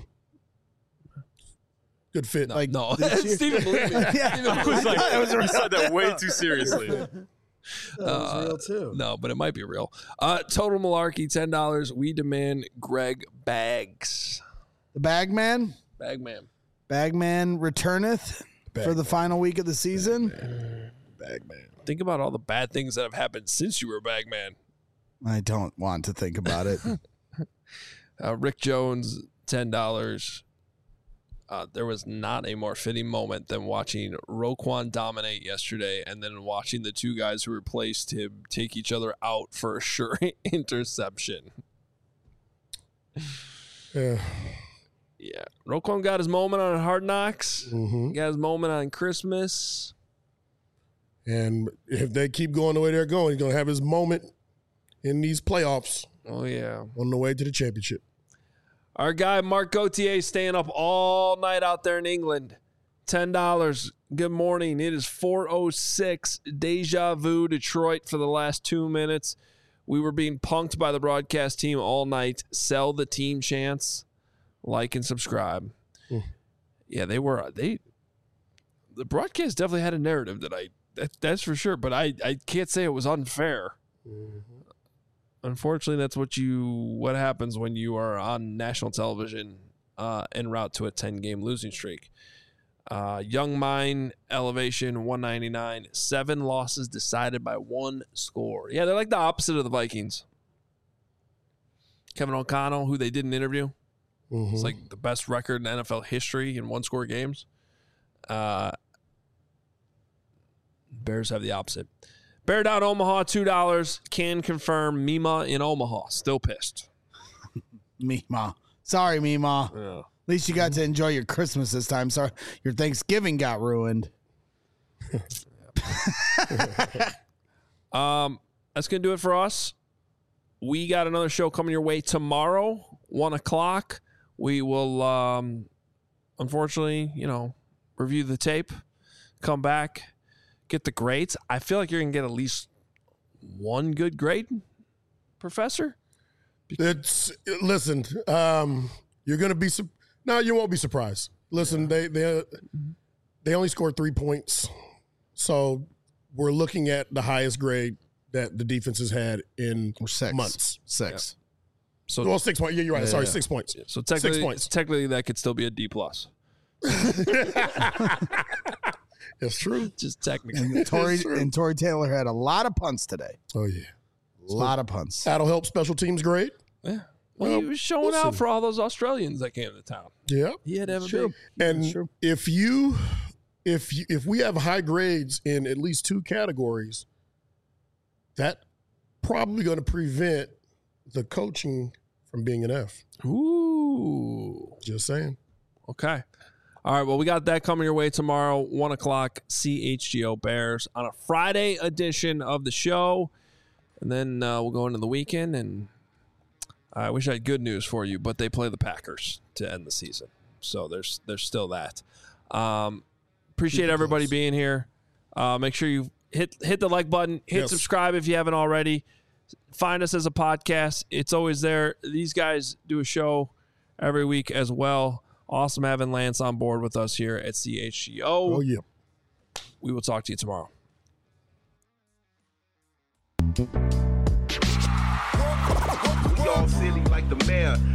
S3: Good fit.
S1: No. Stephen believed me.
S12: You said that way too seriously.
S4: That was real too.
S1: No, but it might be real. Total Malarkey, $10. We demand Greg Baggs.
S4: The Bagman?
S1: Bagman
S4: returneth for the final week of the season.
S3: Bagman.
S1: Think about all the bad things that have happened since you were Bagman.
S4: I don't want to think about it.
S1: Rick Jones, $10. There was not a more fitting moment than watching Roquan dominate yesterday and then watching the two guys who replaced him take each other out for a sure interception. Yeah. Roquan got his moment on Hard Knocks.
S3: Mm-hmm.
S1: Got his moment on Christmas.
S3: And if they keep going the way they're going, he's going to have his moment in these playoffs.
S1: Oh, yeah.
S3: On the way to the championship.
S1: Our guy, Mark Gauthier, staying up all night out there in England. $10. Good morning. It is 4:06. Deja vu, Detroit for the last 2 minutes. We were being punked by the broadcast team all night. Sell the team chance. Like and subscribe. Yeah, they were. The broadcast definitely had a narrative that's for sure, but I can't say it was unfair. Unfortunately, that's what happens when you are on national television en route to a 10-game losing streak. Young Mine, Elevation, 199. 7 losses decided by 1 score. Yeah, they're like the opposite of the Vikings. Kevin O'Connell, who they didn't interview. It's like the best record in NFL history in 1-score games. Bears have the opposite. Bear Down Omaha, $2. Can confirm Mima in Omaha. Still pissed.
S4: Mima. Sorry, Mima.
S1: Yeah.
S4: At least you got to enjoy your Christmas this time. Sorry, your Thanksgiving got ruined.
S1: That's going to do it for us. We got another show coming your way tomorrow, 1 o'clock. We will, unfortunately, review the tape, come back, get the grades. I feel like you're going to get at least one good grade, Professor.
S3: Listen, you're going to be no, you won't be surprised. Listen, they only scored 3 points, so we're looking at the highest grade that the defense has had in months.
S4: 6.
S3: Yeah. So 6 points. Yeah, you're right.
S4: Yeah,
S3: Sorry,
S4: yeah.
S3: 6 points.
S1: So technically,
S3: 6 points.
S1: Technically, that could still be a D+.
S3: It's true.
S1: Just technically.
S4: And Tory Taylor had a lot of punts today.
S3: Oh, yeah.
S4: A lot of punts.
S3: That'll help special teams great.
S1: Yeah. Well, he was showing out for all those Australians that came to town.
S3: Yeah.
S1: He had to have a
S3: True.
S1: big.
S3: And if we have high grades in at least 2 categories, that probably going to prevent the coaching from being an F.
S1: Ooh.
S3: Just saying.
S1: Okay. All right. Well, we got that coming your way tomorrow, 1 o'clock, CHGO Bears on a Friday edition of the show. And then we'll go into the weekend, and I wish I had good news for you, but they play the Packers to end the season. So there's still that. Appreciate everybody being here. Make sure you hit the like button, hit subscribe if you haven't already. Find us as a podcast. It's always there. These guys do a show every week as well. Awesome having Lance on board with us here at CHGO.
S3: Oh, yeah.
S1: We will talk to you tomorrow.
S16: We all silly like the mayor.